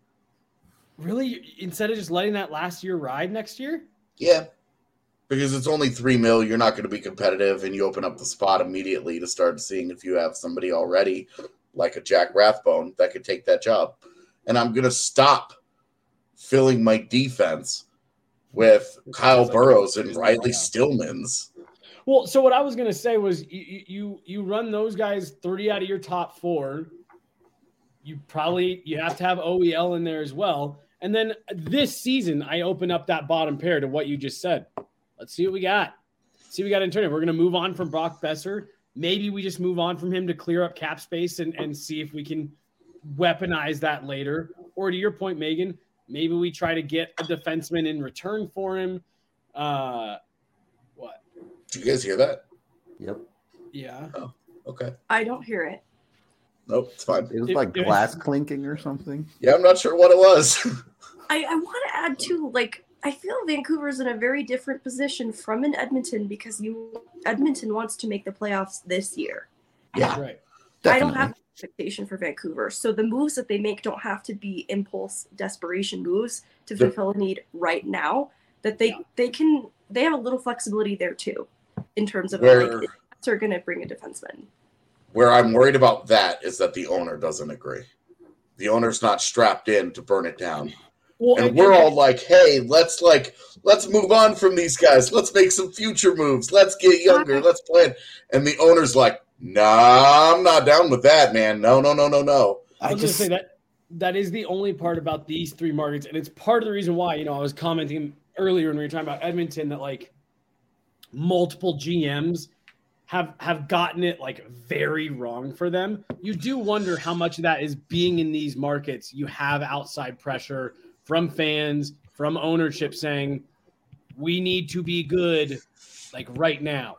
Really? Instead of just letting that last year ride next year? Yeah. Because it's only $3 million, you're not going to be competitive, and you open up the spot immediately to start seeing if you have somebody already, like a Jack Rathbone, that could take that job. And I'm going to stop filling my defense with Kyle Burrows and Riley Stillmans. Well, so what I was going to say was you run those guys 30 out of your top 4. You have to have OEL in there as well. And then this season, I open up that bottom pair to what you just said. Let's see what we got. See what we got in turn. We're going to move on from Brock Besser. Maybe we just move on from him to clear up cap space and see if we can weaponize that later. Or to your point, Megan, maybe we try to get a defenseman in return for him. What? Did you guys hear that? Yep. Yeah. Oh, okay. I don't hear it. Nope, it's fine. It was like glass clinking or something. Yeah, I'm not sure what it was. I want to add too, like, I feel Vancouver's in a very different position from in Edmonton, because Edmonton wants to make the playoffs this year. Yeah, right. Definitely. I don't have expectation for Vancouver. So the moves that they make don't have to be impulse desperation moves to fulfill a need right now. That they have a little flexibility there too, in terms of like, they're going to bring a defenseman. Where I'm worried about that is that the owner doesn't agree. The owner's not strapped in to burn it down. Well, And we're all like, hey, let's move on from these guys. Let's make some future moves. Let's get younger. Let's plan. And the owner's like, nah, I'm not down with that, man. No. I was going to say that is the only part about these 3 markets. And it's part of the reason why, I was commenting earlier when we were talking about Edmonton that like multiple GMs have gotten it like very wrong for them. You do wonder how much of that is being in these markets. You have outside pressure from fans, from ownership saying, we need to be good like right now.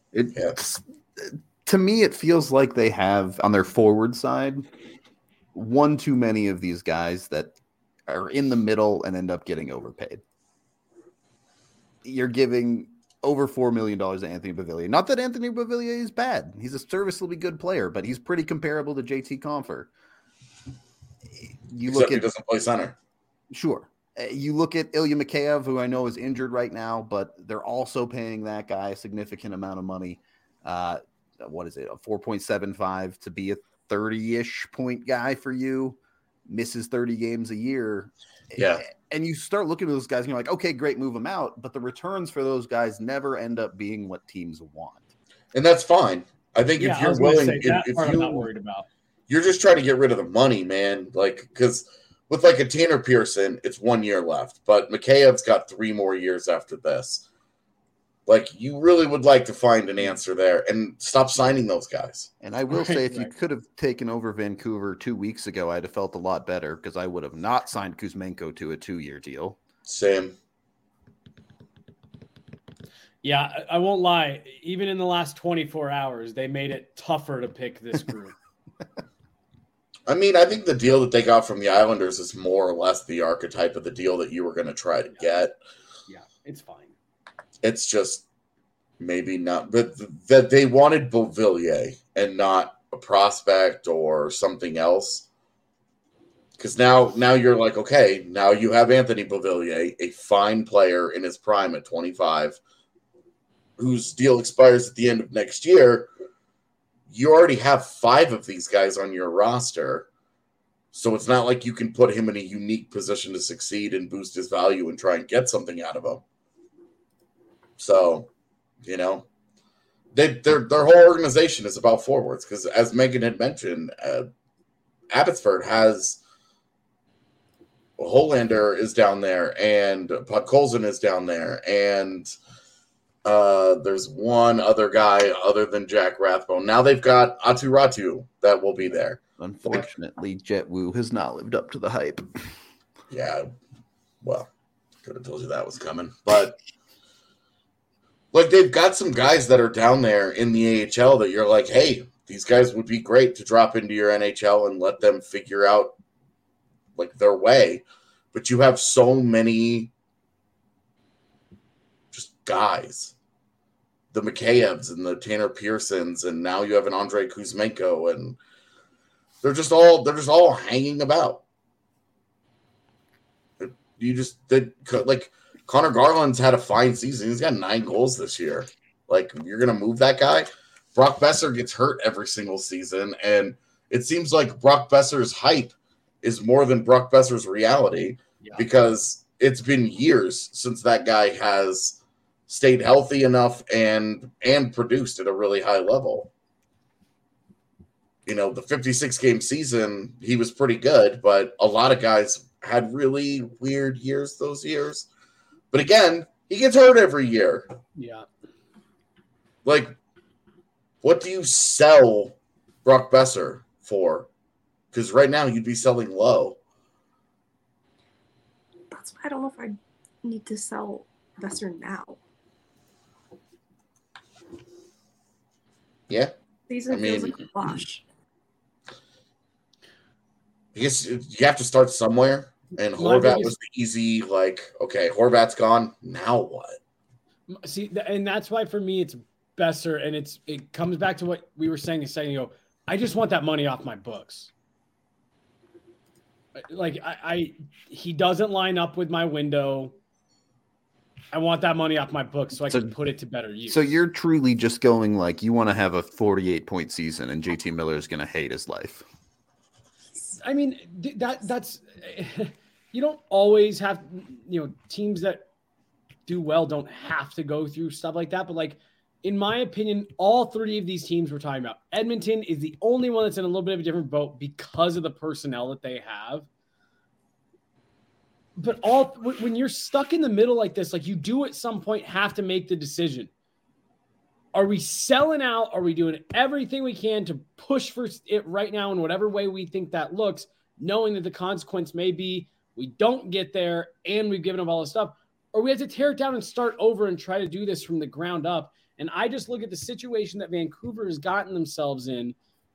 To me, it feels like they have on their forward side one too many of these guys that are in the middle and end up getting overpaid. You're giving over $4 million to Anthony Beauvillier. Not that Anthony Beauvillier is bad. He's a serviceably good player, but he's pretty comparable to JT Compher. Except he doesn't play center. Sure. You look at Ilya Mikheyev, who I know is injured right now, but they're also paying that guy a significant amount of money. What is it? A 4.75 to be a 30-ish point guy for you. Misses 30 games a year. Yeah. And you start looking at those guys and you're like, okay, great, move them out. But the returns for those guys never end up being what teams want. And that's fine. I think if you're willing, I'm not worried about. You're just trying to get rid of the money, man. Like, because with like a Tanner Pearson, it's 1 year left, but Mikheyev's got 3 more years after this. Like, you really would like to find an answer there and stop signing those guys. And I will say, if you could have taken over Vancouver 2 weeks ago, I'd have felt a lot better because I would have not signed Kuzmenko to a 2-year deal. Same. Yeah, I won't lie. Even in the last 24 hours, they made it tougher to pick this group. I mean, I think the deal that they got from the Islanders is more or less the archetype of the deal that you were going to try to get. Yeah, it's fine. It's just maybe not, but that they wanted Beauvillier and not a prospect or something else. Because now you're like, okay, now you have Anthony Beauvillier, a fine player in his prime at 25, whose deal expires at the end of next year. You already have 5 of these guys on your roster. So it's not like you can put him in a unique position to succeed and boost his value and try and get something out of him. So, their whole organization is about forwards because, as Megan had mentioned, Abbotsford has Hollander is down there and Podkolzin is down there, and there's one other guy other than Jack Rathbone. Now they've got Atu Ratu that will be there. Unfortunately, Jet Wu has not lived up to the hype. Yeah, well, could have told you that was coming. But, like, they've got some guys that are down there in the AHL that you're like, hey, these guys would be great to drop into your NHL and let them figure out, like, their way. But you have so many just guys. The Mikheyevs and the Tanner Pearsons, and now you have an Andrei Kuzmenko, and they're just all hanging about. Like Connor Garland's had a fine season. He's got 9 goals this year. Like, you're gonna move that guy. Brock Besser gets hurt every single season, and it seems like Brock Besser's hype is more than Brock Besser's reality because it's been years since that guy has stayed healthy enough and produced at a really high level. The 56-game season, he was pretty good, but a lot of guys had really weird years those years. But again, he gets hurt every year. Yeah. Like, what do you sell Brock Besser for? Because right now you'd be selling low. That's why I don't know if I need to sell Besser now. Yeah. Season feels like a wash. I guess you have to start somewhere, and Horvat was the easy, like, okay, Horvat's gone, now what? See, and that's why for me it's Besser, and it comes back to what we were saying a second ago. I just want that money off my books. Like, he doesn't line up with my window. I want that money off my books so I can put it to better use. So you're truly just going like you want to have a 48-point season, and JT Miller is going to hate his life. I mean, that's you don't always have, teams that do well don't have to go through stuff like that. But, like, in my opinion, all 3 of these teams we're talking about, Edmonton is the only one that's in a little bit of a different boat because of the personnel that they have. But when you're stuck in the middle like this, like, you do at some point have to make the decision. Are we selling out? Are we doing everything we can to push for it right now in whatever way we think that looks, knowing that the consequence may be we don't get there and we've given up all this stuff? Or we have to tear it down and start over and try to do this from the ground up. And I just look at the situation that Vancouver has gotten themselves in.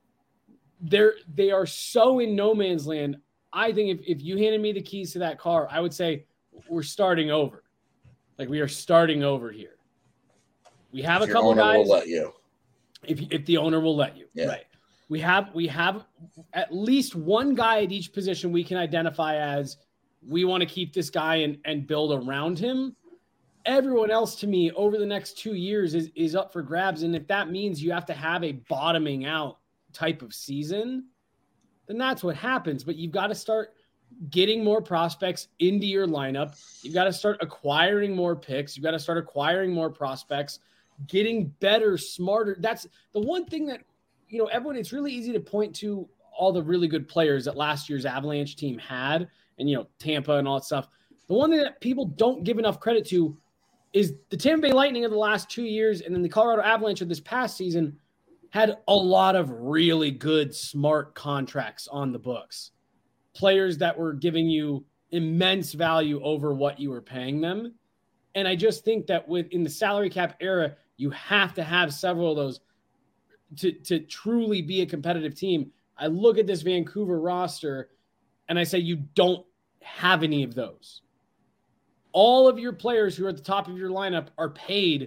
They are so in no man's land. I think if you handed me the keys to that car, I would say we're starting over. Like, we are starting over here. We have a couple guys. Will let you. If the owner will let you, right? We have at least one guy at each position we can identify as we want to keep this guy and build around him. Everyone else, to me, over the next 2 years is up for grabs, and if that means you have to have a bottoming out type of season, then that's what happens. But you've got to start getting more prospects into your lineup. You've got to start acquiring more picks. You've got to start acquiring more prospects. Getting better, smarter. That's the one thing that, everyone, it's really easy to point to all the really good players that last year's Avalanche team had and, Tampa and all that stuff. The one thing that people don't give enough credit to is the Tampa Bay Lightning of the last 2 years and then the Colorado Avalanche of this past season had a lot of really good, smart contracts on the books. Players that were giving you immense value over what you were paying them. And I just think that in the salary cap era, you have to have several of those to truly be a competitive team. I look at this Vancouver roster and I say you don't have any of those. All of your players who are at the top of your lineup are paid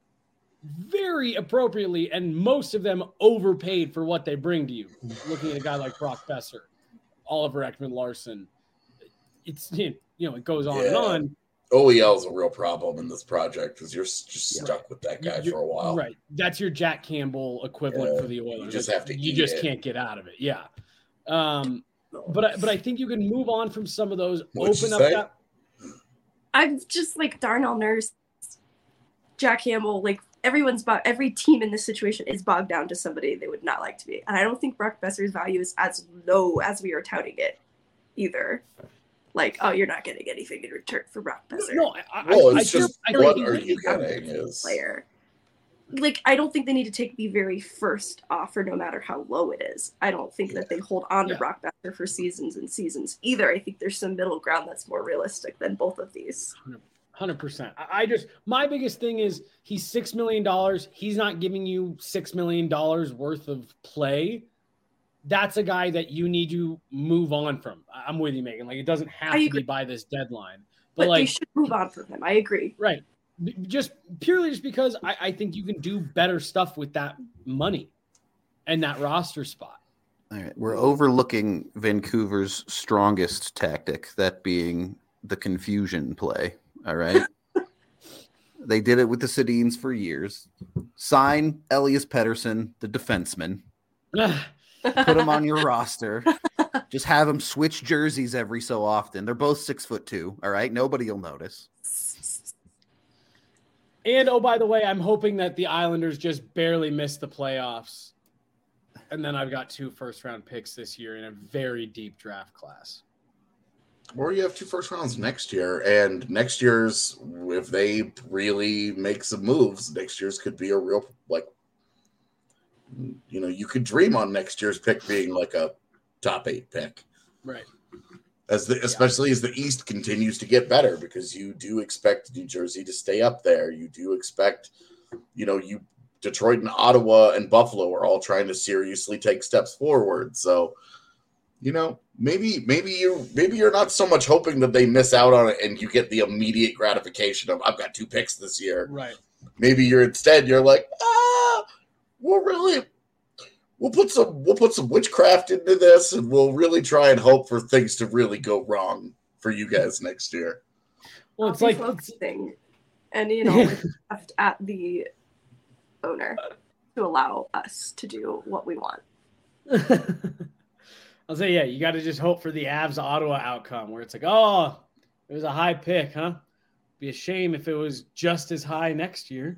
very appropriately, and most of them overpaid for what they bring to you. Looking at a guy like Brock Besser, Oliver Ekman-Larsson, it goes on and on. OEL is a real problem in this project because you're just stuck with that guy for a while. Right. That's your Jack Campbell equivalent for the Oilers. You just have to You just can't get out of it. Yeah. But I think you can move on from some of those. What'd you Open up say? that. I'm just like Darnell Nurse, Jack Campbell, like every team in this situation is bogged down to somebody they would not like to be. And I don't think Brock Besser's value is as low as we are touting it either. Like, oh, you're not getting anything in return for Brock Besser. No, It's just I what think are he you would getting is player. Like, I don't think they need to take the very first offer, no matter how low it is. I don't think that they hold on to Brock Besser for seasons and seasons either. I think there's some middle ground that's more realistic than both of these. 100%. My biggest thing is he's $6 million. He's not giving you $6 million worth of play. That's a guy that you need to move on from. I'm with you, Megan. Like, it doesn't have to be by this deadline. But like, they should move on from him. I agree. Right. Just because I think you can do better stuff with that money and that roster spot. All right. We're overlooking Vancouver's strongest tactic, that being the confusion play. All right. They did it with the Sedins for years. Sign Elias Pettersson, the defenseman. Put him on your roster. Just have him switch jerseys every so often. They're both 6'2". All right. Nobody will notice. And, oh, by the way, I'm hoping that the Islanders just barely miss the playoffs. And then I've got 2 first-round picks this year in a very deep draft class. Or you have 2 first rounds next year. And next year's, if they really make some moves, next year's could be a real, like, you know, you could dream on next year's pick being like a top 8 pick. Right. Especially as the East continues to get better, because you do expect New Jersey to stay up there. You do expect, you know, Detroit and Ottawa and Buffalo are all trying to seriously take steps forward. So, you know, maybe you're not so much hoping that they miss out on it and you get the immediate gratification of, I've got 2 picks this year. Right. Maybe you're like, we'll put some witchcraft into this, and we'll really try and hope for things to really go wrong for you guys next year. Well, it's like focusing, and you know, left at the owner to allow us to do what we want. I'll say, yeah, you got to just hope for the Avs Ottawa outcome, where it's like, oh, it was a high pick, huh? Be a shame if it was just as high next year.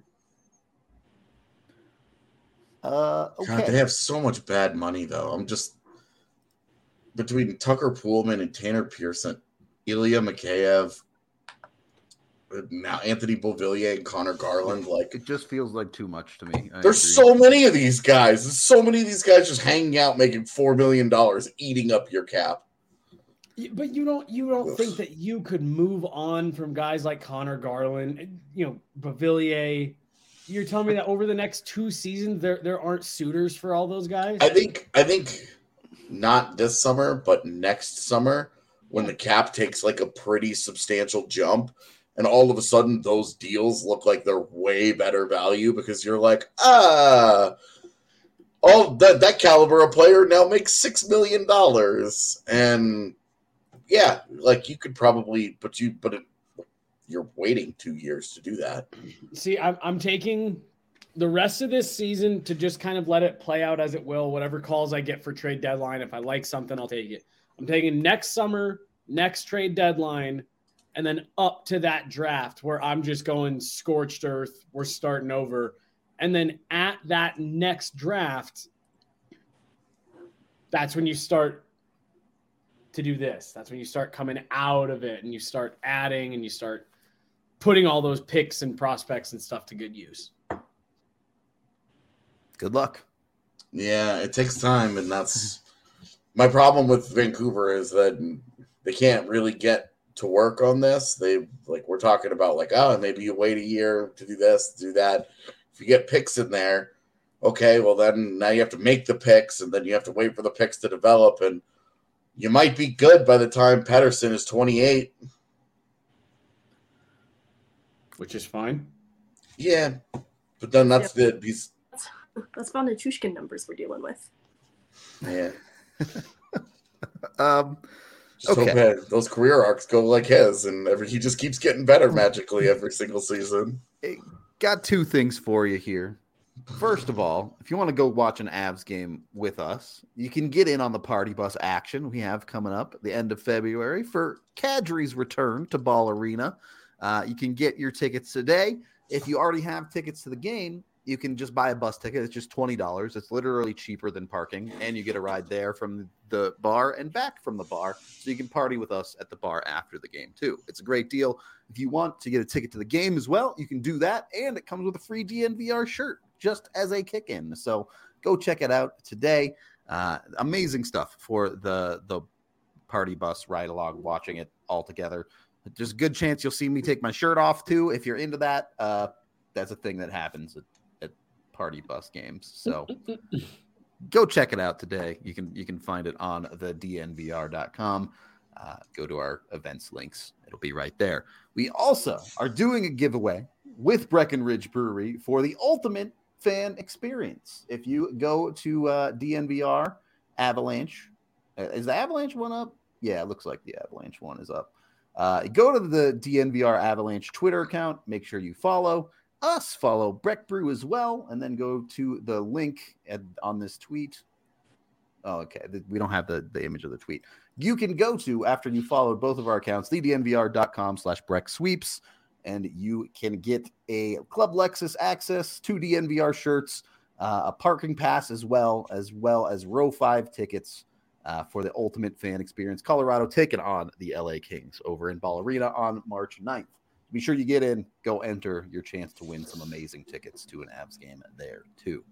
Okay. God, they have so much bad money, though. I'm just between Tucker Poolman and Tanner Pearson, Ilya Mikheyev, now Anthony Beauvillier and Connor Garland. Like, it just feels like too much to me. There's so many of these guys. There's so many of these guys just hanging out, making $4 million, eating up your cap. But you don't think that you could move on from guys like Connor Garland, you know, Beauvillier. You're telling me that over the next 2 seasons, there aren't suitors for all those guys? I think not this summer, but next summer, when the cap takes like a pretty substantial jump, and all of a sudden those deals look like they're way better value, because you're like, all that caliber of player now makes $6 million. And yeah, like you could probably, but you're waiting 2 years to do that. See, I'm taking the rest of this season to just kind of let it play out as it will. Whatever calls I get for trade deadline, if I like something, I'll take it. I'm taking next summer, next trade deadline, and then up to that draft where I'm just going scorched earth. We're starting over. And then at that next draft, that's when you start to do this. That's when you start coming out of it and you start adding and you start putting all those picks and prospects and stuff to good use. Good luck. Yeah, it takes time, and that's my problem with Vancouver, is that they can't really get to work on this. We're talking about like, oh, maybe you wait a year to do this, do that. If you get picks in there, okay, well then now you have to make the picks, and then you have to wait for the picks to develop, and you might be good by the time Pettersson is 28. Which is fine. Yeah, but then that's That's Von Nichushkin numbers we're dealing with. Yeah. Okay. Hope those career arcs go like his, and he just keeps getting better magically every single season. Hey, got 2 things for you here. First of all, if you want to go watch an Avs game with us, you can get in on the party bus action we have coming up at the end of February for Kadri's return to Ball Arena. You can get your tickets today. If you already have tickets to the game, you can just buy a bus ticket. It's just $20. It's literally cheaper than parking, and you get a ride there from the bar and back from the bar, so you can party with us at the bar after the game too. It's a great deal. If you want to get a ticket to the game as well, you can do that, and it comes with a free DNVR shirt just as a kick-in. So go check it out today. Amazing stuff for the party bus ride along, watching it all together. There's a good chance you'll see me take my shirt off too. If you're into that, that's a thing that happens at party bus games. So go check it out today. You can find it on the dnvr.com. Go to our events links. It'll be right there. We also are doing a giveaway with Breckenridge Brewery for the ultimate fan experience. If you go to DNVR Avalanche, is the Avalanche one up? Yeah, it looks like the Avalanche one is up. Go to the DNVR Avalanche Twitter account. Make sure you follow us, follow Breck Brew as well, and then go to the link on this tweet. Oh, okay. We don't have the image of the tweet. You can go to, after you followed both of our accounts, thednvr.com/BreckSweeps, and you can get a Club Lexus access, 2 DNVR shirts, a parking pass as well as Row 5 tickets for the ultimate fan experience. Colorado taking on the LA Kings over in Ball Arena on March 9th. Be sure you get in, go enter your chance to win some amazing tickets to an Avs game there too.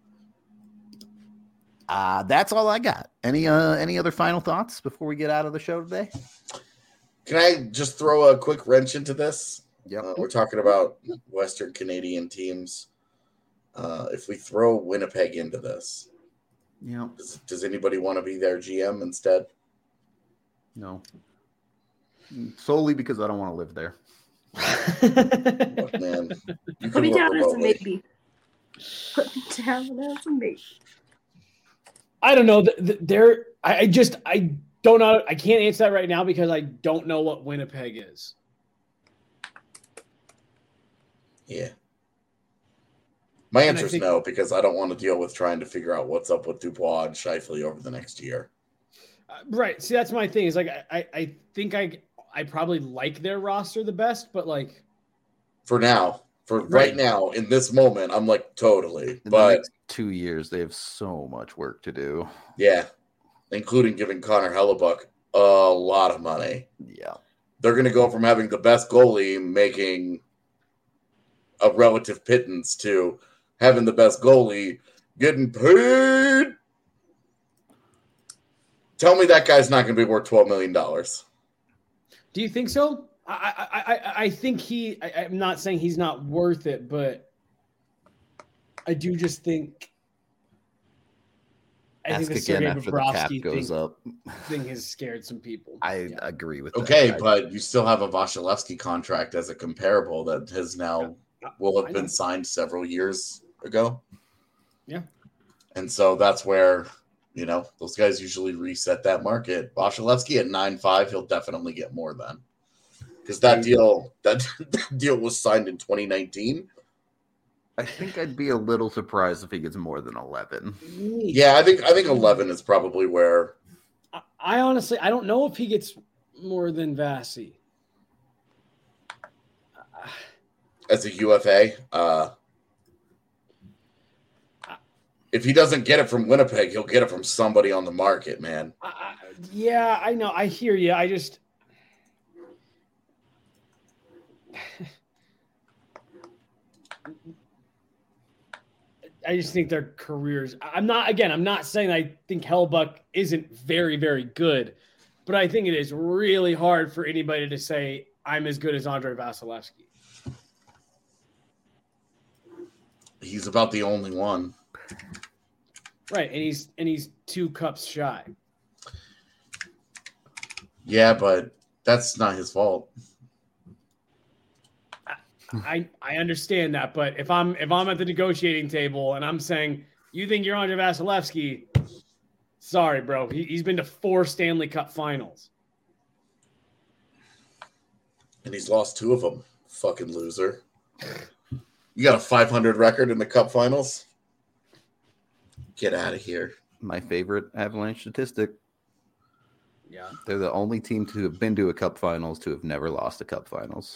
That's all I got. Any other final thoughts before we get out of the show today? Can I just throw a quick wrench into this? Yep. We're talking about Western Canadian teams. If we throw Winnipeg into this, Yeah. does anybody want to be their GM instead? No. Solely because I don't want to live there. Look, man, you Put can me work down as a remotely. maybe. Put me down as a maybe. I don't know. I don't know. I can't answer that right now because I don't know what Winnipeg is. Yeah. My And answer is no, because I don't want to deal with trying to figure out what's up with Dubois and Scheifele over the next year. Right. See, that's my thing. Is like I think I probably like their roster the best, but like For now, right now, in this moment, I'm like totally. In the But next 2 years, they have so much work to do. yeah, including giving Connor Hellebuck a lot of money. Yeah. They're going to go from having the best goalie making a relative pittance to having the best goalie getting paid. Tell me that guy's not going to be worth $12 million. do you think so? I think I'm not saying he's not worth it, but I do just think Ask the again Sergei after the cap Bobrovsky goes up. thing has scared some people. I agree with Okay, that. but you still have a Vasilevsky contract as a comparable that has now will have been signed several years ago. Yeah. And so that's where, those guys usually reset that market. Vasilevsky at 9.5, he'll definitely get more then. Because that deal was signed in 2019. I think I'd be a little surprised if he gets more than 11. Yeah, I think 11 is probably where. I honestly, I don't know if he gets more than Vasi. As a UFA, if he doesn't get it from Winnipeg, he'll get it from somebody on the market, man. Yeah, I know. I hear you. I just. I just think their careers. I'm not saying I think Hellbuck isn't very, very good, but I think it is really hard for anybody to say I'm as good as Andrei Vasilevsky. He's about the only one. Right, and he's 2 cups shy. Yeah, but that's not his fault. I understand that, but if I'm at the negotiating table and I'm saying you think you're Andrei Vasilevsky, sorry, bro. He's been to 4 Stanley Cup Finals, And he's lost 2 of them. Fucking loser. You got a 500 record in the Cup Finals? Get out of here. My favorite Avalanche statistic. Yeah. They're the only team to have been to a Cup Finals to have never lost a Cup Finals.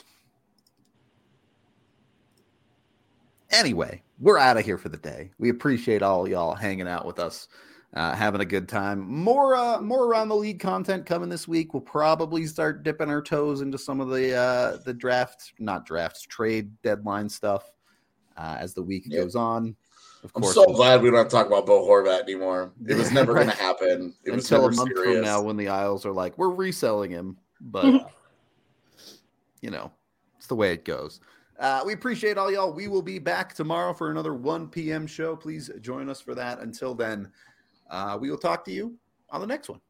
Anyway, we're out of here for the day. We appreciate all y'all hanging out with us, having a good time. More around the league content coming this week. We'll probably start dipping our toes into some of the trade deadline stuff as the week goes on. Of course, I'm so glad we don't have to talk about Bo Horvat anymore. It was never going to happen. It was until never a month serious. from now when the Isles are like, we're reselling him. But, it's the way it goes. We appreciate all y'all. We will be back tomorrow for another 1 p.m. show. Please join us for that. Until then, we will talk to you on the next one.